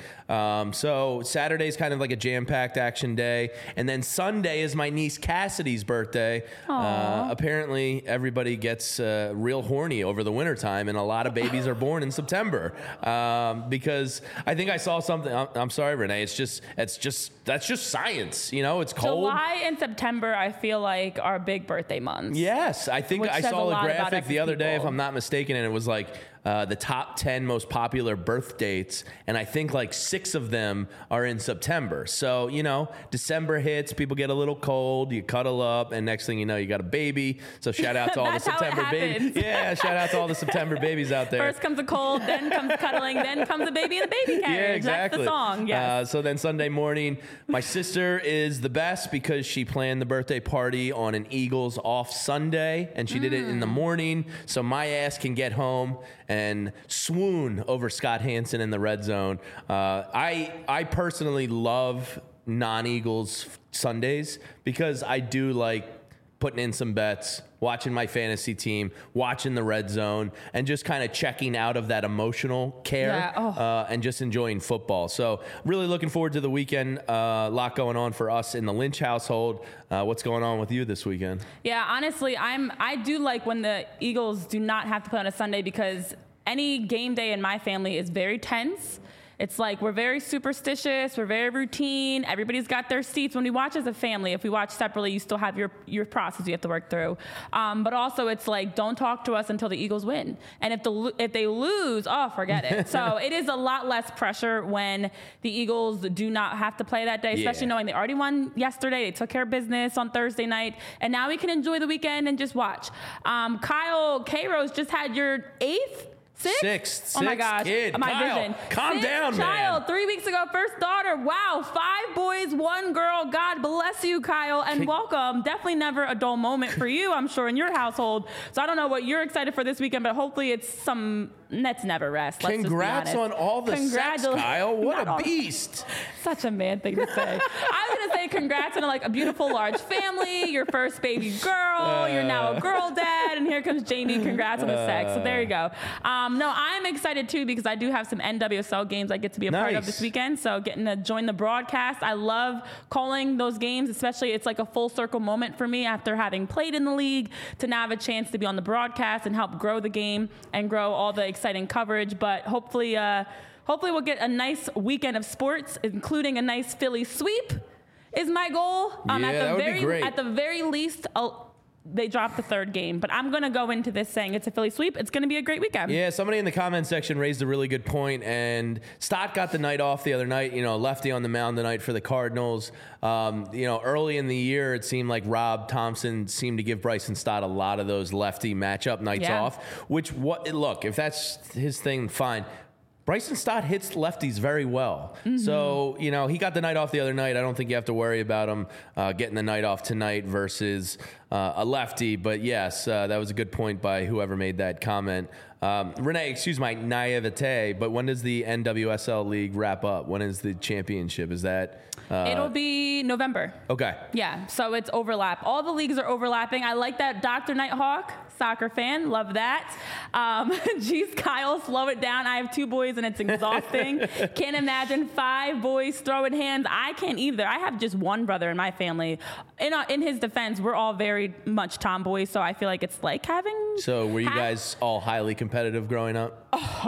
So Saturday's kind of like a jam-packed action day. And then Sunday is my niece Cassidy's birthday. Apparently, everybody gets real horny over the wintertime, and a lot of babies are born in September. Because I think I saw something. I'm sorry, Renee. That's just science. It's cold. July and September, I feel like, are big birthday months. Yes. I think I saw a graphic the other day, if I'm not mistaken, and it was like the top 10 most popular birth dates, and I think like 6 of them are in September. So, December hits, people get a little cold, you cuddle up, and next thing you know, you got a baby. So shout out to all the September babies. Yeah, shout out to all the September babies out there. First comes a cold, then comes cuddling, then comes a baby in a baby carriage. Yeah, exactly. That's the song, yes. So then Sunday morning, my sister is the best because she planned the birthday party on an Eagles off Sunday, and she did it in the morning, so my ass can get home and swoon over Scott Hansen in the red zone. I personally love non-Eagles Sundays because I do like putting in some bets, watching my fantasy team, watching the red zone, and just kind of checking out of that emotional care and just enjoying football. So really looking forward to the weekend. A lot going on for us in the Lynch household. What's going on with you this weekend? Yeah, honestly, I do like when the Eagles do not have to play on a Sunday, because any game day in my family is very tense. It's like we're very superstitious. We're very routine. Everybody's got their seats. When we watch as a family, if we watch separately, you still have your process you have to work through. But also, it's like, don't talk to us until the Eagles win. And if they lose, forget it. So it is a lot less pressure when the Eagles do not have to play that day, especially knowing they already won yesterday. They took care of business on Thursday night. And now we can enjoy the weekend and just watch. Kyle K-Rose just had your Sixth. Oh my gosh. Kid. My Kyle, vision. calm down, child, man. 3 weeks ago, first daughter. Wow. 5 boys, 1 girl. God bless you, Kyle, and welcome. Definitely never a dull moment for you, I'm sure, in your household. So I don't know what you're excited for this weekend, but hopefully it's some Nets never rest. Let's Congrats on all the sex, Kyle. What a beast. Such a man thing to say. I was going to say congrats on a beautiful large family, your first baby girl. You're now a girl dad, and here comes Jamie. Congrats on the sex. So there you go. No, I'm excited too, because I do have some NWSL games I get to be a part of this weekend. So getting to join the broadcast. I love calling those games, especially it's like a full circle moment for me after having played in the league to now have a chance to be on the broadcast and help grow the game and grow all the exciting coverage. But hopefully we'll get a nice weekend of sports, including a nice Philly sweep is my goal. That would be great. At the very least, they dropped the 3rd game, but I'm going to go into this saying it's a Philly sweep. It's going to be a great weekend. Yeah, somebody in the comment section raised a really good point, and Stott got the night off the other night, lefty on the mound tonight for the Cardinals. Early in the year, it seemed like Rob Thompson seemed to give Bryson Stott a lot of those lefty matchup nights off, look, if that's his thing, fine. Bryson Stott hits lefties very well. Mm-hmm. So, he got the night off the other night. I don't think you have to worry about him getting the night off tonight versus a lefty. But yes, that was a good point by whoever made that comment. Renee, excuse my naivete, but when does the NWSL League wrap up? When is the championship? Is that... It'll be November. Okay. Yeah, so it's overlap. All the leagues are overlapping. I like that. Dr. Nighthawk, soccer fan, love that. Geez, Kyle, slow it down. I have 2 boys and it's exhausting. Can't imagine 5 boys throwing hands. I can't either. I have just 1 brother in my family. In his defense, we're all very much tomboys, so I feel like it's like having... So were you guys all highly competitive growing up?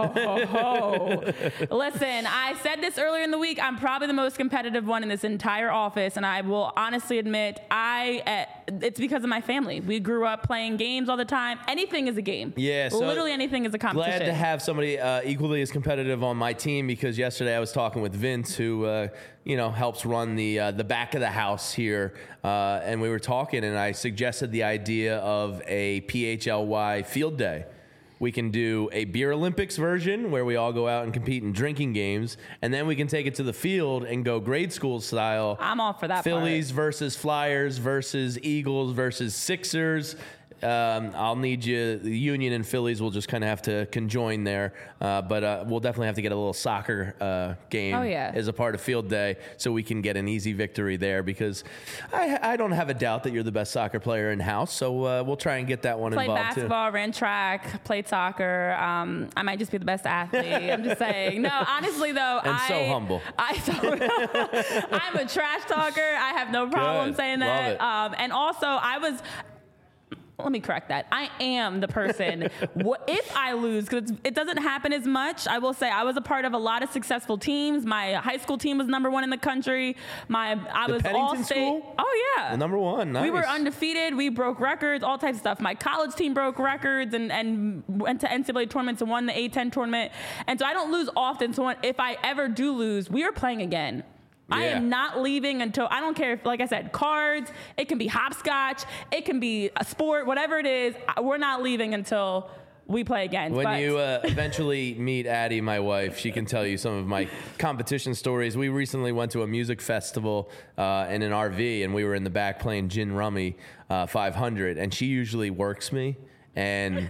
Listen, I said this earlier in the week. I'm probably the most competitive one in this entire office, and I will honestly admit it's because of my family. We grew up playing games all the time. Anything is a game. Yeah, so literally anything is a competition. Glad to have somebody equally as competitive on my team, because yesterday I was talking with Vince, who helps run the back of the house here, and we were talking, and I suggested the idea of a PHLY field day. We can do a Beer Olympics version where we all go out and compete in drinking games, and then we can take it to the field and go grade school style. I'm all for that. Phillies versus Flyers versus Eagles versus Sixers. I'll need you. The Union and Phillies will just kind of have to conjoin there, but we'll definitely have to get a little soccer game as a part of field day, so we can get an easy victory there. Because I don't have a doubt that you're the best soccer player in house, so we'll try and get that one involved too. Played basketball, ran track, played soccer. I might just be the best athlete. I'm just saying. No, honestly though, so humble. I'm a trash talker. I have no problem saying that. And also, let me correct that. I am the person. If I lose, because it doesn't happen as much, I will say I was a part of a lot of successful teams. My high school team was #1 in the country. I was all-state. School? Oh, yeah. Well, #1, nice. We were undefeated. We broke records, all types of stuff. My college team broke records and went to NCAA tournaments and won the A10 tournament. And so I don't lose often. So if I ever do lose, we are playing again. Yeah. I am not leaving until, I don't care if, like I said, cards, it can be hopscotch, it can be a sport, whatever it is, we're not leaving until we play again. When you eventually meet Addie, my wife, she can tell you some of my competition stories. We recently went to a music festival in an RV, and we were in the back playing Gin Rummy 500, and she usually works me. And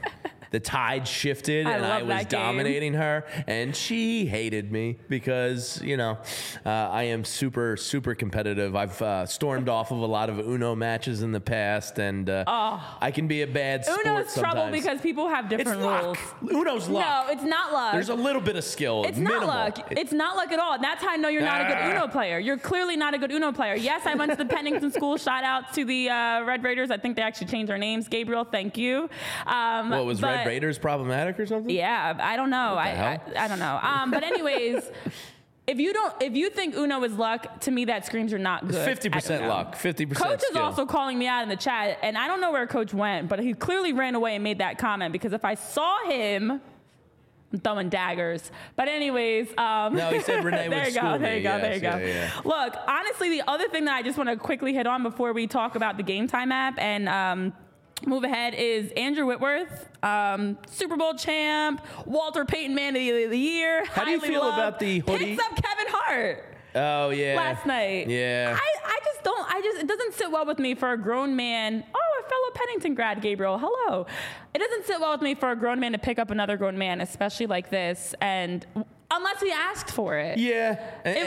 the tide shifted and love I was that game. dominating her, and she hated me because, I am super, super competitive. I've stormed off of a lot of Uno matches in the past, and I can be a bad sport Uno's sometimes. trouble because people have It's different rules. luck. Uno's luck. No, it's not luck. There's a little bit of skill. It's minimal. not luck. It's not luck at all. And that's how I know you're not a good Uno player. You're clearly not a good Uno player. Yes, I went to the Pennington School. Shout out to the Red Raiders. I think they actually changed their names. Gabriel, thank you. What was Red Raiders problematic or something? Yeah, I don't know. I don't know. But anyways, if you think Uno is luck, to me that screams you're not good. 50% luck, 50% Coach skill. is also calling me out in the chat, and I don't know where Coach went, but he clearly ran away and made that comment because if I saw him, I'm throwing daggers. But anyways, no, he said Renee would school me. There you go. Yeah. Look, honestly, the other thing that I just want to quickly hit on before we talk about the Game Time app and move ahead is Andrew Whitworth, Super Bowl champ, Walter Payton Man of the Year. How do you feel about the hoodie? Picks up Kevin Hart. Oh, yeah. Last night. Yeah. It doesn't sit well with me for a grown man. Oh, a fellow Pennington grad, Gabriel. Hello. It doesn't sit well with me for a grown man to pick up another grown man, especially like this, and unless he asked for it. Yeah.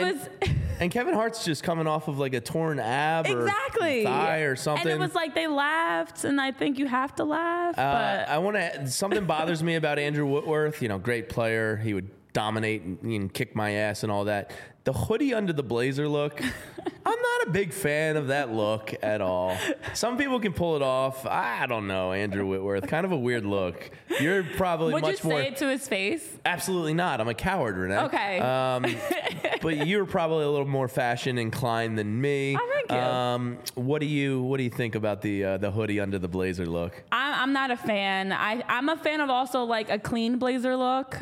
And And Kevin Hart's just coming off of like a torn ab or thigh or something. And it was like they laughed, and I think you have to laugh. But something bothers me about Andrew Whitworth. Great player. He would dominate and kick my ass and all that. The hoodie under the blazer look, I'm not a big fan of that look at all. Some people can pull it off. I don't know, Andrew Whitworth. Kind of a weird look. You're probably would much you more. say it to his face? Absolutely not. I'm a coward, Renee. Okay. But you're probably a little more fashion inclined than me. Oh, thank you. What do you think about the hoodie under the blazer look? I'm not a fan. I'm a fan of also like a clean blazer look.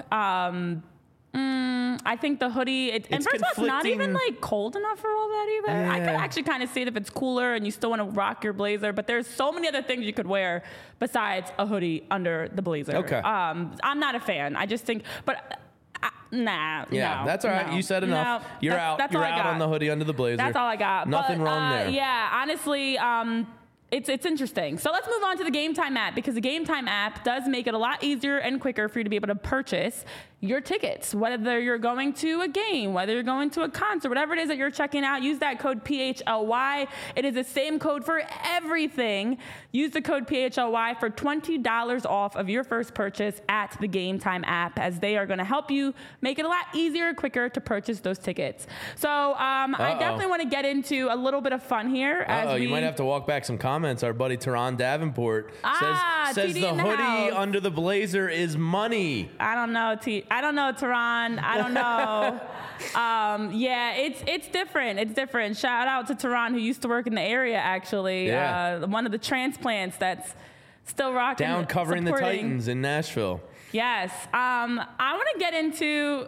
I think the hoodie, and first of all, it's not even like cold enough for all that either. Yeah. I could actually kind of see it if it's cooler and you still want to rock your blazer, but there's so many other things you could wear besides a hoodie under the blazer. Okay. I'm not a fan. I just think, nah. Yeah, no, that's all right. no, You said enough. no, You're out. That's You're all I out got. on the hoodie under the blazer. That's all I got. Nothing wrong there. Yeah, honestly, it's interesting. So let's move on to the Game Time app because the Game Time app does make it a lot easier and quicker for you to be able to purchase your tickets, whether you're going to a game, whether you're going to a concert, whatever it is that you're checking out, use that code PHLY. It is the same code for everything. Use the code PHLY for $20 off of your first purchase at the Game Time app, as they are going to help you make it a lot easier and quicker to purchase those tickets. So I definitely want to get into a little bit of fun here. You might have to walk back some comments. Our buddy Teron Davenport says TD the in the hoodie house. under the blazer is money. I don't know, Teron. I don't know. Yeah, it's different. It's different. Shout out to Teron, who used to work in the area, actually. Yeah. One of the transplants that's still rocking. Down covering supporting. the Titans in Nashville. Yes. I want to get into...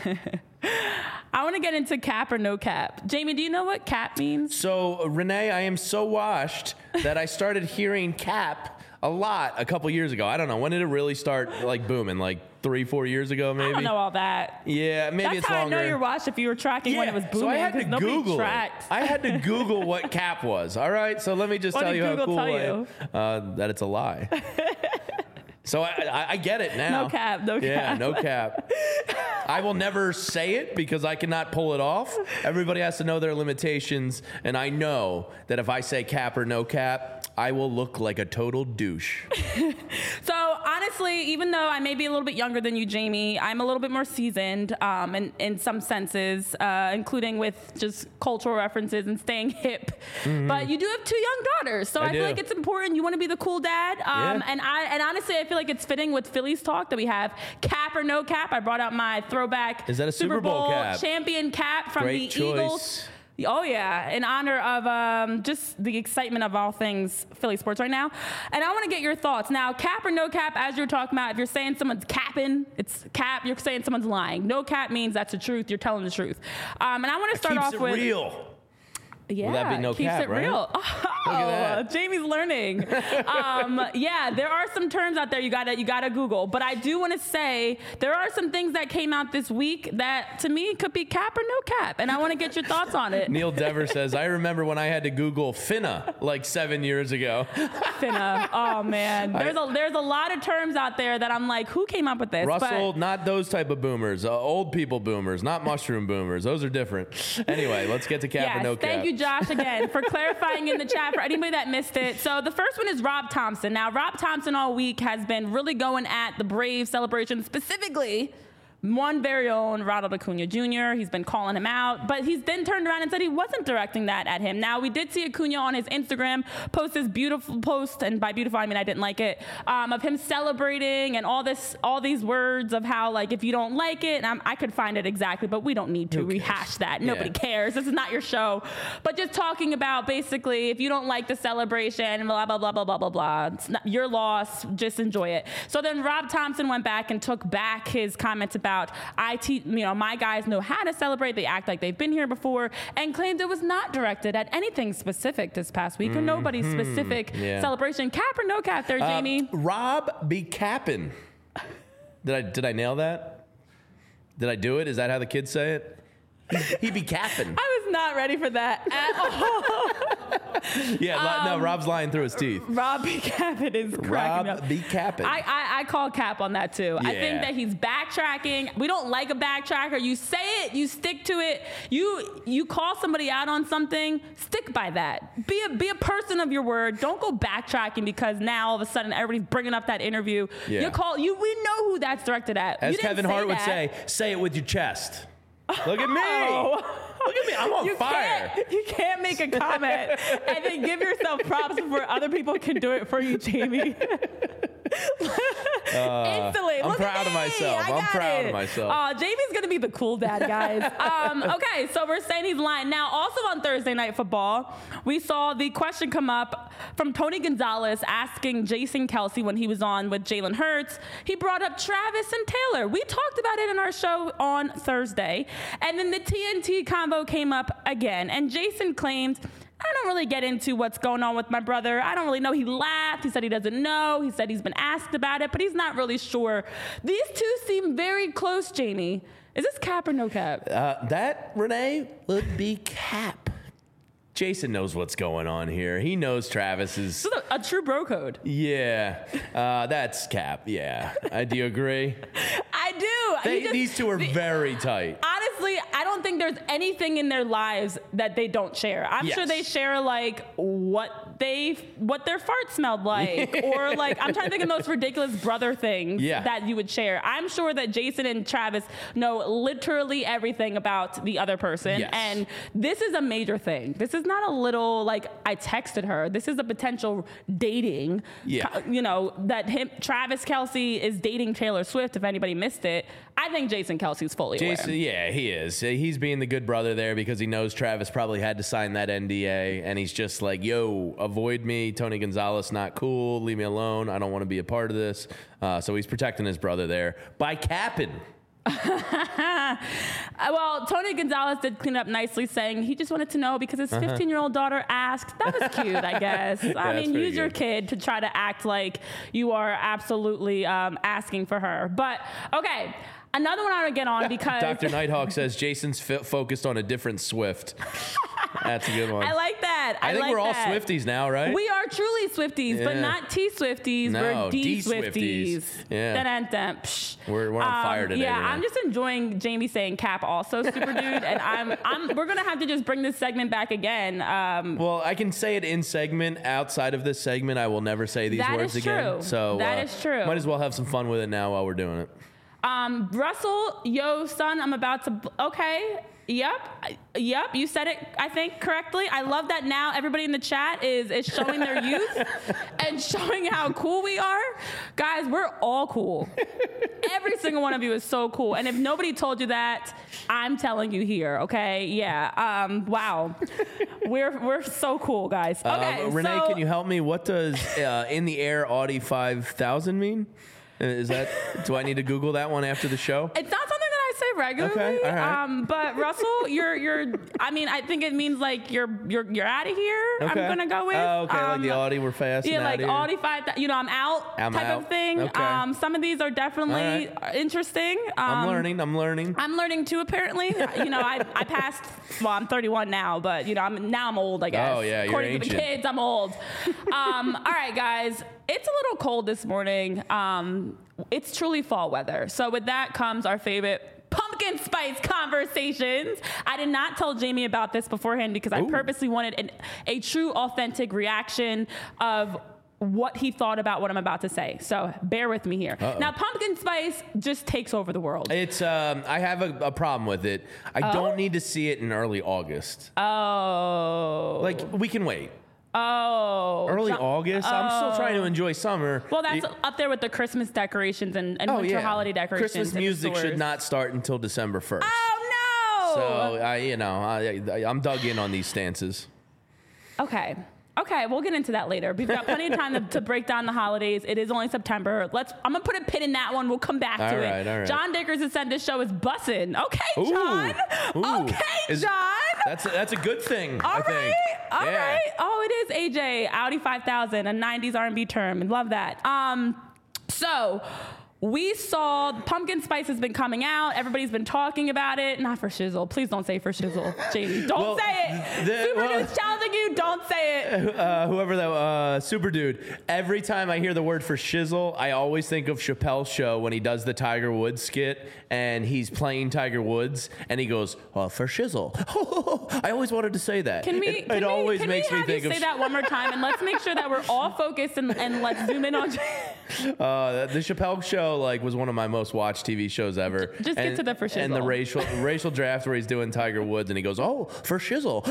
I want to get into cap or no cap. Jamie, do you know what cap means? So, Renee, I am so washed that I started hearing cap a lot a couple years ago. I don't know. When did it really start like booming? Like 3-4 years ago, maybe? I don't know all that. Yeah, maybe That's it's how longer. I know you're washed if you were tracking when it was booming. So I had to nobody Google tracked. it. I had to Google what cap was. All right, so let me just What tell did you how Google cool tell I you? am. That it's a lie. So I get it now. No cap, no cap. Yeah, no cap. I will never say it because I cannot pull it off. Everybody has to know their limitations, and I know that if I say cap or no cap, I will look like a total douche. So honestly, even though I may be a little bit younger than you, Jamie, I'm a little bit more seasoned in some senses, including with just cultural references and staying hip. Mm-hmm. But you do have 2 young daughters, so I feel like it's important. You want to be the cool dad, and honestly, I feel like it's fitting with Phillies talk that we have cap or no cap. I brought out my throwback. Is that a Super Bowl cap? Champion cap from Great the choice. Eagles. Oh, yeah, in honor of just the excitement of all things Philly sports right now. And I want to get your thoughts. Now, cap or no cap, as you're talking about, if you're saying someone's capping, it's cap. You're saying someone's lying. No cap means that's the truth. You're telling the truth. And I want to start off with... real. Yeah, Will that be no keeps cap, it right? real. Oh, Jamie's learning. Yeah, there are some terms out there you gotta Google. But I do want to say there are some things that came out this week that to me could be cap or no cap, and I want to get your thoughts on it. Neil Dever says, I remember when I had to Google finna like 7 years ago. Finna. Oh man, there's a lot of terms out there that I'm like, who came up with this? Russell, not those type of boomers, old people boomers, not mushroom boomers. Those are different. Anyway, let's get to cap or no cap. Thank you, Josh, again for clarifying in the chat for anybody that missed it. So the first one is Rob Thompson. Now, Rob Thompson all week has been really going at the Braves celebration, specifically one very own Ronald Acuna Jr. He's been calling him out, but he's then turned around and said he wasn't directing that at him. Now, we did see Acuna on his Instagram post this beautiful post, and by beautiful, I mean I didn't like it, of him celebrating and all these words of how, like, if you don't like it, and I could find it exactly, but we don't need to rehash that. Nobody cares. This is not your show. But just talking about basically, if you don't like the celebration, blah, blah, blah, blah, blah, blah, blah. It's not your loss. Just enjoy it. So then Rob Thompson went back and took back his comments about my guys know how to celebrate. They act like they've been here before, and claimed it was not directed at anything specific this past week or nobody's specific celebration. Cap or no cap there, Jamie? Rob be capping. Did I nail that? Did I do it? Is that how the kids say it? He be capping. I was not ready for that at all. Rob's lying through his teeth. Rob B. Capin is cracking up. Rob B. Capin. I call cap on that too. Yeah. I think that he's backtracking. We don't like a backtracker. You say it, you stick to it. You call somebody out on something, stick by that. Be a person of your word. Don't go backtracking because now all of a sudden everybody's bringing up that interview. Yeah. We know who that's directed at. As Kevin Hart would say it with your chest. Look at me. Look at me. I'm on fire. You can't make a comment and then give yourself props before other people can do it for you, Jamie. Instantly. I'm proud of myself. I'm proud of myself. Jamie's going to be the cool dad, guys. Okay, so we're saying he's lying. Now, also on Thursday Night Football, we saw the question come up from Tony Gonzalez asking Jason Kelce when he was on with Jalen Hurts. He brought up Travis and Taylor. We talked about it in our show on Thursday. And then the TNT combo came up again. And Jason claimed, I don't really get into what's going on with my brother. I don't really know. He laughed. He said he doesn't know. He said he's been asked about it, but he's not really sure. These two seem very close, Jamie. Is this cap or no cap? That, Renee, would be cap. Jason knows what's going on here. He knows Travis is... This is a true bro code. Yeah. That's cap. Yeah. Do you agree? I do. These two are very tight. Honestly, I don't think there's anything in their lives that they don't share. I'm sure they share like what their fart smelled like, or like I'm trying to think of those ridiculous brother things that you would share. I'm sure that Jason and Travis know literally everything about the other person, and this is a major thing. This is not a little like I texted her. This is a potential dating. Travis Kelce is dating Taylor Swift. If anybody missed it, I think Jason Kelce's fully aware. Yeah, he is. He's being the good brother there because he knows Travis probably had to sign that NDA, and he's just like, yo, avoid me. Tony Gonzalez, not cool. Leave me alone. I don't want to be a part of this. So he's protecting his brother there by capping. Well, Tony Gonzalez did clean up nicely, saying he just wanted to know because his 15-year-old daughter asked. That was cute, I guess. I mean, use your kid to try to act like you are absolutely asking for her. But, okay. Another one I would get on because... Dr. Nighthawk says Jason's focused on a different Swift. That's a good one. I like that. I think we're all Swifties now, right? We are truly Swifties, but not T-Swifties. No, we're D-Swifties. Yeah. Dun-dun-dun. We're on fire today. Yeah, Renee. I'm just enjoying Jamie saying cap also, super dude. And we're going to have to just bring this segment back again. Well, I can say it in segment. Outside of this segment, I will never say these words again. True. So that is true. Might as well have some fun with it now while we're doing it. Russell, yo, son, I'm about to... Okay. Yep. You said it, I think, correctly. I love that now everybody in the chat is showing their youth and showing how cool we are. Guys, we're all cool. Every single one of you is so cool. And if nobody told you that, I'm telling you here, okay? Yeah. Wow. We're so cool, guys. Okay, Renee, can you help me? What does in the air Audi 5000 mean? Is that? Do I need to Google that one after the show? It's not something that I say regularly. Okay, all right. But Russell, you're. I mean, I think it means like you're out of here. Okay. I'm gonna go with. Oh, okay, like the Audi, we're fast. Yeah, like here. Audi 5. I'm out. I'm type out. of thing. Okay. Some of these are definitely interesting. I'm learning. I'm learning too. Apparently, I passed. Well, I'm 31 now, but I'm old. I guess. Oh yeah, you're According ancient. to the kids, I'm old. All right, guys. It's a little cold this morning. It's truly fall weather. So with that comes our favorite pumpkin spice conversations. I did not tell Jamie about this beforehand because I purposely wanted a true, authentic reaction of what he thought about what I'm about to say. So bear with me here. Uh-oh. Now, pumpkin spice just takes over the world. It's I have a problem with it. I don't need to see it in early August. Oh. Like, we can wait. Oh. Early August? I'm still trying to enjoy summer. Well, that's up there with the Christmas decorations and winter holiday decorations. Christmas music should not start until December 1st. Oh, no. So, I'm dug in on these stances. Okay, we'll get into that later. We've got plenty of time to break down the holidays. It is only September. I'm gonna put a pin in that one. We'll come back to it. All right. John Dickers has said this show is bussin'. Okay, John. Okay, John. That's a good thing. All I think. All right. Oh, it is AJ Audi 5000, a 90s R&B term. Love that. So. We saw pumpkin spice has been coming out. Everybody's been talking about it. Not for shizzle. Please don't say for shizzle, Jamie. Don't say it. Super Dude's challenging you. Don't say it. Whoever that Super Dude. Every time I hear the word for shizzle, I always think of Chappelle's show when he does the Tiger Woods skit and he's playing Tiger Woods and he goes, for shizzle. I always wanted to say that. It always makes me think of. Say that one more time and let's make sure that we're all focused and let's zoom in on. The Chappelle show was one of my most watched TV shows ever. Just get to the for shizzle. And the racial draft where he's doing Tiger Woods and he goes, for shizzle.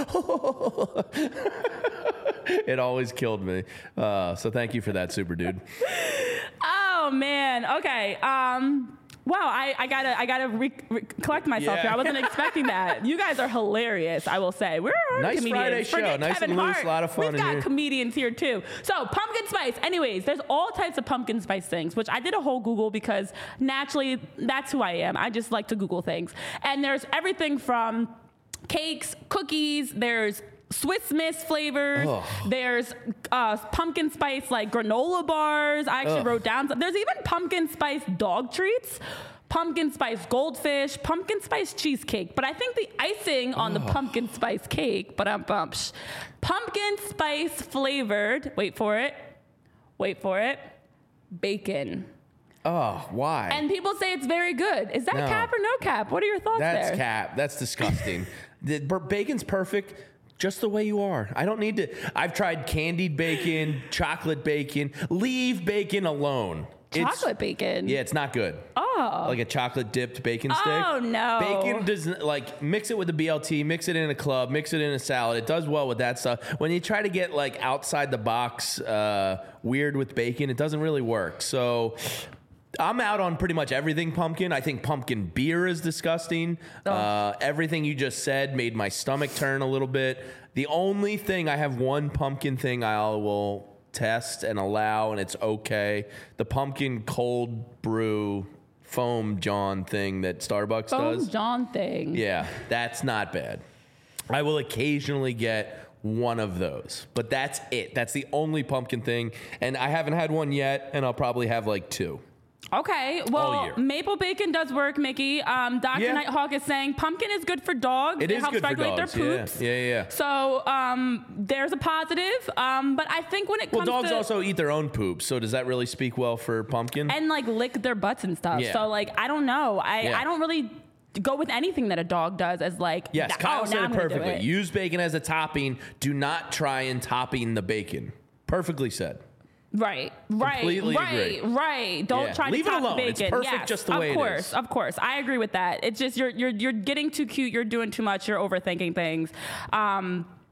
It always killed me. So thank you for that, Super Dude. Oh man. Okay. Wow, I gotta collect myself here. I wasn't expecting that. You guys are hilarious, I will say. We're nice comedians. Friday show, Forget nice Kevin and loose, Hart. a lot of fun We've in got here. comedians here too. So pumpkin spice. Anyways, there's all types of pumpkin spice things, which I did a whole Google because naturally that's who I am. I just like to Google things. And there's everything from cakes, cookies, there's Swiss Miss flavors. Ugh. There's pumpkin spice granola bars. I actually wrote down some. There's even pumpkin spice dog treats. Pumpkin spice goldfish, pumpkin spice cheesecake. But I think the icing on the pumpkin spice cake, pumpkin spice flavored, wait for it, bacon. Oh, why? And people say it's very good. Is that cap or no cap? What are your thoughts there? That's cap. That's disgusting. Bacon's perfect just the way you are. I don't need to. I've tried candied bacon, chocolate bacon. Leave bacon alone. Chocolate bacon? Yeah, it's not good. Oh. Like a chocolate dipped bacon stick. Oh, no. Bacon doesn't, mix it with the BLT, mix it in a club, mix it in a salad. It does well with that stuff. When you try to get outside the box weird with bacon, it doesn't really work. So I'm out on pretty much everything pumpkin. I think pumpkin beer is disgusting. Everything you just said made my stomach turn a little bit. The only thing, I have one pumpkin thing I will test and allow, and it's okay. The pumpkin cold brew foam John thing that Starbucks does. Foam John thing. Yeah, that's not bad. I will occasionally get one of those, but that's it. That's the only pumpkin thing, and I haven't had one yet, and I'll probably have two. Okay, All well, year. maple bacon does work, Mickey. Dr. Nighthawk is saying pumpkin is good for dogs. It is helps good for regulate dogs. their poops. Yeah. So there's a positive, but I think when it comes Well, dogs to also eat their own poop, so does that really speak well for pumpkin? and lick their butts and stuff. Yeah. So I don't know. I don't really go with anything that a dog does as Yes, Kyle said it perfectly. It. Use bacon as a topping. Do not try and topping the bacon. Perfectly said. Right. Completely agree. Right. Don't try to leave it top alone. bacon. It's perfect just the way it is. Of course. I agree with that. It's just you're getting too cute. You're doing too much. You're overthinking things.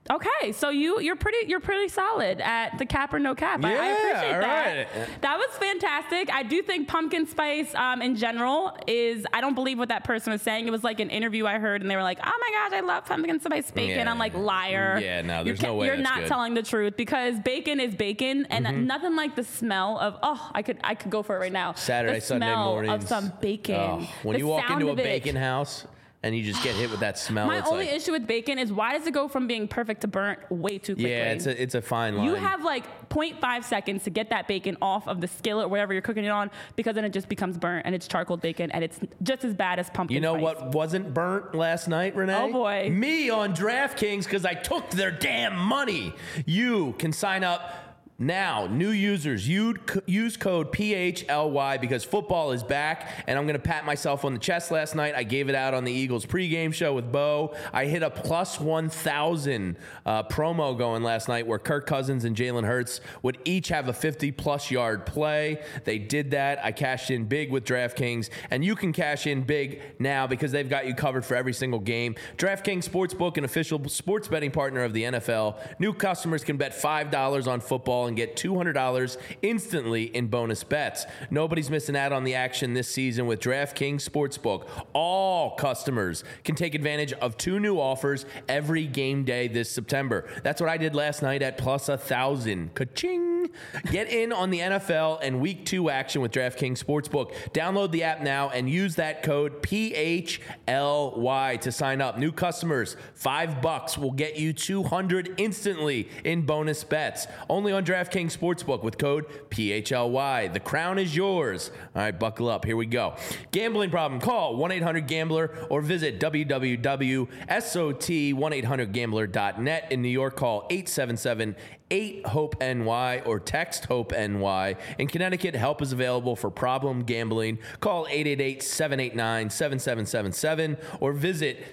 Okay, so you're pretty solid at the cap or no cap. I appreciate that. Right. That was fantastic. I do think pumpkin spice in general is, I don't believe what that person was saying. It was like an interview I heard and they were like, oh my gosh, I love pumpkin spice bacon. Yeah. I'm like, liar. Yeah, no, there's no way You're that's not good. telling the truth, because bacon is bacon, and nothing like the smell of, I could go for it right now. Saturday, the Sunday smell mornings. of some bacon. Oh, when The you walk sound into a of it. bacon house and you just get hit with that smell. My it's only like, issue with bacon is, why does it go from being perfect to burnt way too quickly? yeah, it's a fine line. You have like 0.5 seconds to get that bacon off of the skillet or whatever you're cooking it on, because then it just becomes burnt and it's charcoal bacon, and it's just as bad as pumpkin You know spice. what wasn't burnt last night, Renee? Oh, boy. Me on DraftKings, because I took their damn money. You can sign up now. New users, use code PHLY because football is back, and I'm going to pat myself on the chest. Last night, I gave it out on the Eagles pregame show with Bo. I hit a plus 1,000 promo going last night where Kirk Cousins and Jalen Hurts would each have a 50-plus yard play. They did that. I cashed in big with DraftKings, and you can cash in big now because they've got you covered for every single game. DraftKings Sportsbook, an official sports betting partner of the NFL. New customers can bet $5 on football and get $200 instantly in bonus bets. Nobody's missing out on the action this season with DraftKings Sportsbook. All customers can take advantage of 2 new offers every game day this September. That's what I did last night at plus 1,000. Ka-ching! Get in on the NFL and Week 2 action with DraftKings Sportsbook. Download the app now and use that code PHLY to sign up. New customers, $5 will get you $200 instantly in bonus bets. Only on DraftKings Sportsbook with code PHLY. The crown is yours. All right, buckle up. Here we go. Gambling problem? Call 1-800-GAMBLER or visit www.sot1800gambler.net. In New York, call 877-8-HOPE-NY or text HOPE-NY. In Connecticut, help is available for problem gambling. Call 888-789-7777 or visit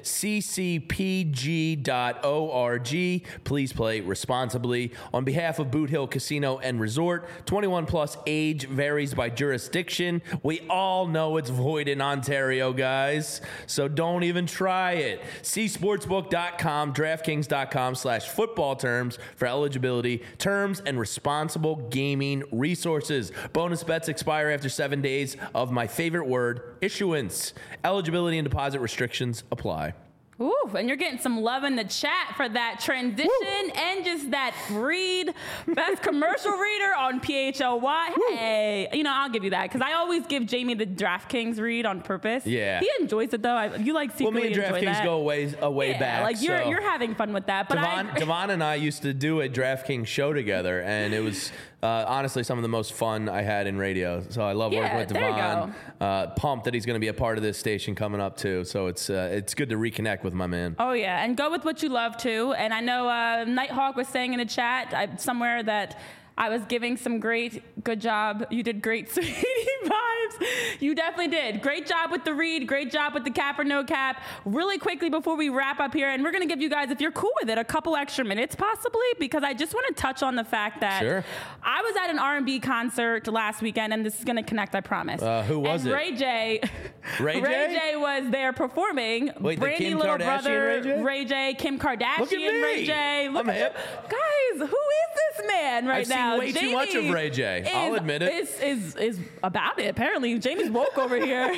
ccpg.org. Please play responsibly. On behalf of Boot Hill Casino and Resort, 21 plus, age varies by jurisdiction. We all know it's void in Ontario, guys, so don't even try it. See sportsbook.com, DraftKings.com/football terms for eligibility, terms, and responsible gaming resources. Bonus bets expire after 7 days of my favorite word, issuance. Eligibility and deposit restrictions apply. Ooh, and you're getting some love in the chat for that transition and just that read. Best commercial reader on PHLY. Hey, I'll give you that, because I always give Jamie the DraftKings read on purpose. Yeah. He enjoys it, though. You like secretly enjoy that. Well, me and DraftKings go a way back. Like you're having fun with that. But Devon and I used to do a DraftKings show together, and it was honestly some of the most fun I had in radio. So I love working with Devon. Pumped that he's going to be a part of this station coming up too. So it's good to reconnect with my man. Oh yeah, and go with what you love too. And I know Nighthawk was saying in the chat somewhere that I was giving some good job. You did great, sweetie vibes. You definitely did. Great job with the read. Great job with the cap or no cap. Really quickly before we wrap up here, and we're going to give you guys, if you're cool with it, a couple extra minutes possibly, because I just want to touch on the fact that I was at an R&B concert last weekend, and this is going to connect, I promise. Who was it? Ray J. Ray J was there performing. Wait, Brandy the Kim little Kardashian brother, Ray J, Kim Kardashian, Look at me. Ray J. I'm hip. Guys, who is this man right I've now? seen way too much of Ray J. I'll admit it. Is about it. Apparently, Jamie's woke over here.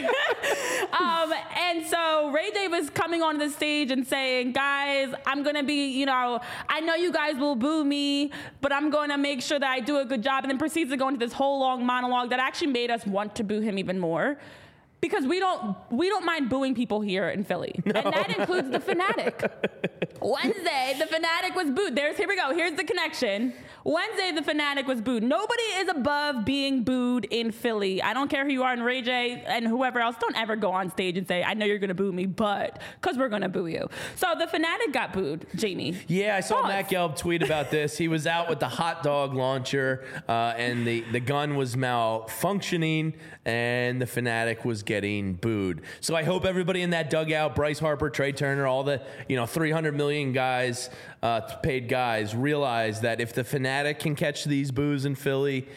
And so Ray J was coming on the stage and saying, guys, I'm going to be, I know you guys will boo me, but I'm going to make sure that I do a good job. And then proceeds to go into this whole long monologue that actually made us want to boo him even more. Because we don't mind booing people here in Philly. No. And that includes the Fanatic. Wednesday, the Fanatic was booed. Here we go. Here's the connection. Wednesday, the Fanatic was booed. Nobody is above being booed in Philly. I don't care who you are, in Ray J and whoever else. Don't ever go on stage and say, I know you're going to boo me, but, because we're going to boo you. So the Fanatic got booed, Jamie. Yeah, I saw Matt Gelb tweet about this. He was out with the hot dog launcher, and the gun was malfunctioning, and the Fanatic was getting booed. So I hope everybody in that dugout, Bryce Harper, Trey Turner, all the 300 million guys, paid guys, realize that if the Fanatic can catch these boos in Philly,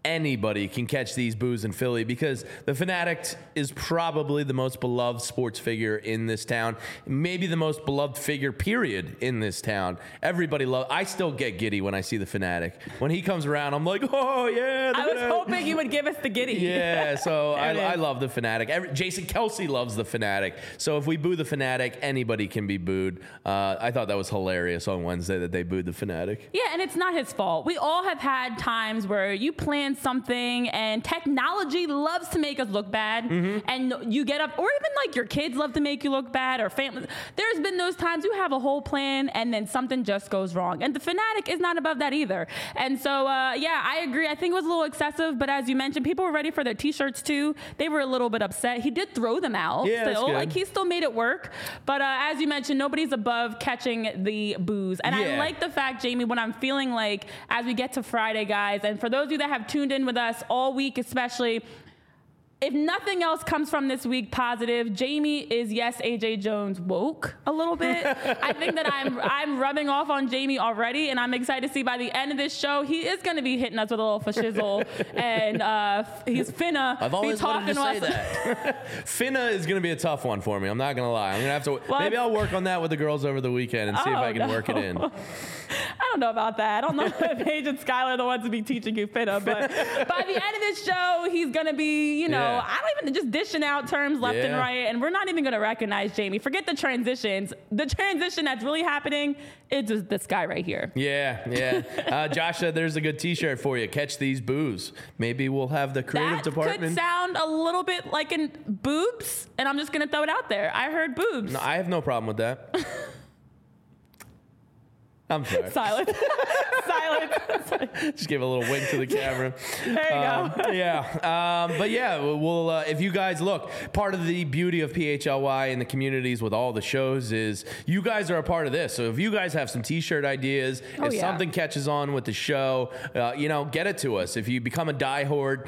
anybody can catch these boos in Philly because the Fanatic is probably the most beloved sports figure in this town, maybe the most beloved figure, period, in this town. Everybody loves. I still get giddy when I see the Fanatic. When he comes around, I'm like, oh yeah. I was hoping you would give us the giddy. Yeah, so I love the Fanatic. Jason Kelce loves the Fanatic. So if we boo the Fanatic, anybody can be booed. I thought that was hilarious on Wednesday that they booed the Fanatic. Yeah, and it's not his fault. We all have had times where you plan something and technology loves to make us look bad, and you get up, or even like your kids love to make you look bad, or family. There's been those times you have a whole plan and then something just goes wrong, and the Fanatic is not above that either. And so, yeah, I agree. I think it was a little excessive, but as you mentioned, people were ready for their T-shirts too. They were a little bit upset. He did throw them out. Yeah, still. that's good. Like, he still made it work. But as you mentioned, nobody's above catching the boos. And I like the fact, Jamie, when I'm feeling like as we get to Friday, guys, and for those of you that have tuned in with us all week especially, if nothing else comes from this week positive, Jamie is, yes, AJ Jones woke a little bit. I think that I'm rubbing off on Jamie already, and I'm excited to see by the end of this show, he is going to be hitting us with a little fashizzle, and he's finna I've always be talking wanted to say that. Finna is going to be a tough one for me. I'm not going to lie. I'm going to have to. Maybe I'll work on that with the girls over the weekend and see if I can work it in. I don't know about that. I don't know if Paige and Skylar are the ones to be teaching you finna, but by the end of this show, he's going to be, I don't even just dishing out terms left and right, and we're not even going to recognize Jamie. Forget the transitions. The transition that's really happening is just this guy right here. Yeah. Josh said there's a good T-shirt for you. Catch these boos. Maybe we'll have the creative department. That could sound a little bit like in boobs, and I'm just going to throw it out there. I heard boobs. No, I have no problem with that. I'm sorry. Silence. Just give a little wink to the camera. There you go. Yeah. But yeah, we'll, if you guys look, part of the beauty of PHLY and the communities with all the shows is you guys are a part of this. So if you guys have some T-shirt ideas, if something catches on with the show, get it to us. If you become a die hard.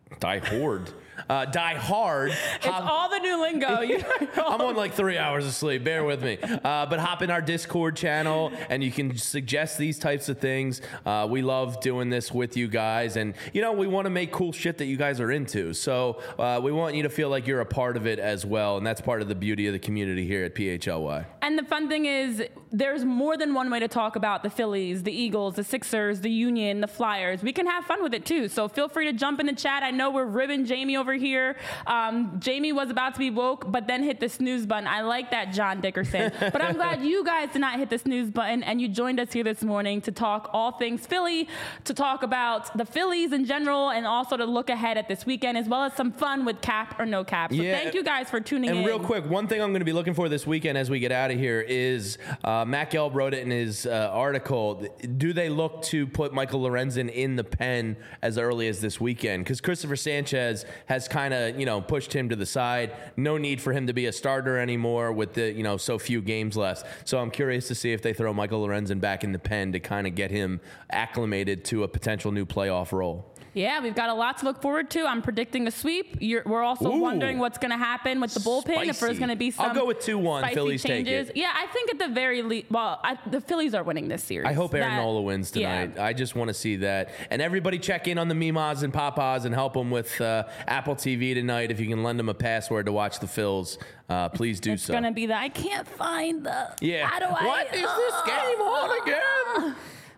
It's all the new lingo. I'm on like 3 hours of sleep. Bear with me. But hop in our Discord channel and you can suggest these types of things. We love doing this with you guys. And, we want to make cool shit that you guys are into. So we want you to feel like you're a part of it as well. And that's part of the beauty of the community here at PHLY. And the fun thing is there's more than one way to talk about the Phillies, the Eagles, the Sixers, the Union, the Flyers. We can have fun with it too. So feel free to jump in the chat. I know we're ribbing Jamie over here. Jamie was about to be woke, but then hit the snooze button. I like that, John Dickerson. But I'm glad you guys did not hit the snooze button and you joined us here this morning to talk all things Philly, to talk about the Phillies in general, and also to look ahead at this weekend, as well as some fun with cap or no cap. So thank you guys for tuning in. And real quick, one thing I'm going to be looking for this weekend as we get out of here is Matt Gelb wrote it in his article. Do they look to put Michael Lorenzen in the pen as early as this weekend? Because Christopher Sanchez has kind of, pushed him to the side. No need for him to be a starter anymore with the, so few games left. So I'm curious to see if they throw Michael Lorenzen back in the pen to kind of get him acclimated to a potential new playoff role. Yeah, we've got a lot to look forward to. I'm predicting a sweep. We're also wondering what's going to happen with the bullpen. Spicy. If there's going to be some I'll go with 2-1. Phillies changes. Take it. Yeah, I think at the very least, the Phillies are winning this series. I hope Aaron Nola wins tonight. Yeah. I just want to see that. And everybody check in on the Mimas and Papas and help them with Apple TV tonight. If you can lend them a password to watch the Phils, please do so. It's going to be I can't find the... Yeah. What is this game on again?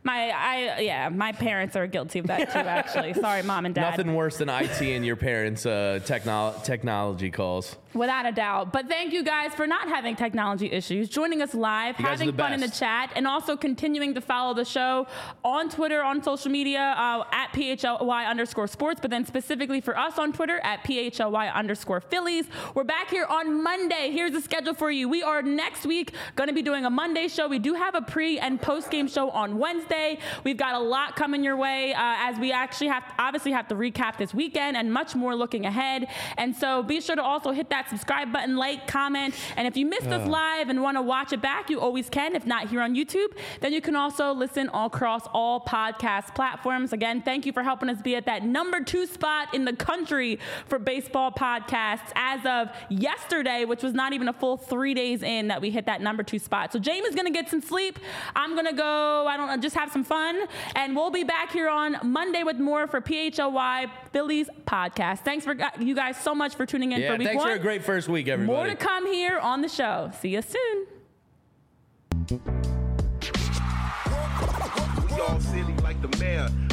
My parents are guilty of that too, actually. Sorry, Mom and Dad. Nothing worse than IT and your parents' technology calls. Without a doubt. But thank you guys for not having technology issues, joining us live, having fun in the chat, and also continuing to follow the show on Twitter, on social media, at PHLY_sports, but then specifically for us on Twitter at PHLY_Phillies. We're back here on Monday. Here's the schedule for you. We are next week going to be doing a Monday show. We do have a pre and post game show on Wednesday. We've got a lot coming your way as we actually have to recap this weekend and much more looking ahead. And so be sure to also hit that subscribe button, like, comment, and if you missed us live and want to watch it back, you always can. If not here on YouTube, then you can also listen across all podcast platforms. Again, thank you for helping us be at that number 2 spot in the country for baseball podcasts as of yesterday, which was not even a full 3 days in that we hit that number 2 spot. So Jamie's going to get some sleep. I'm going to go, have some fun. And we'll be back here on Monday with more for PHLY Phillies podcast. Thanks for you guys so much for tuning in for week thanks one. for a great first week, everybody. More to come here on the show. See you soon. We all silly like the mayor.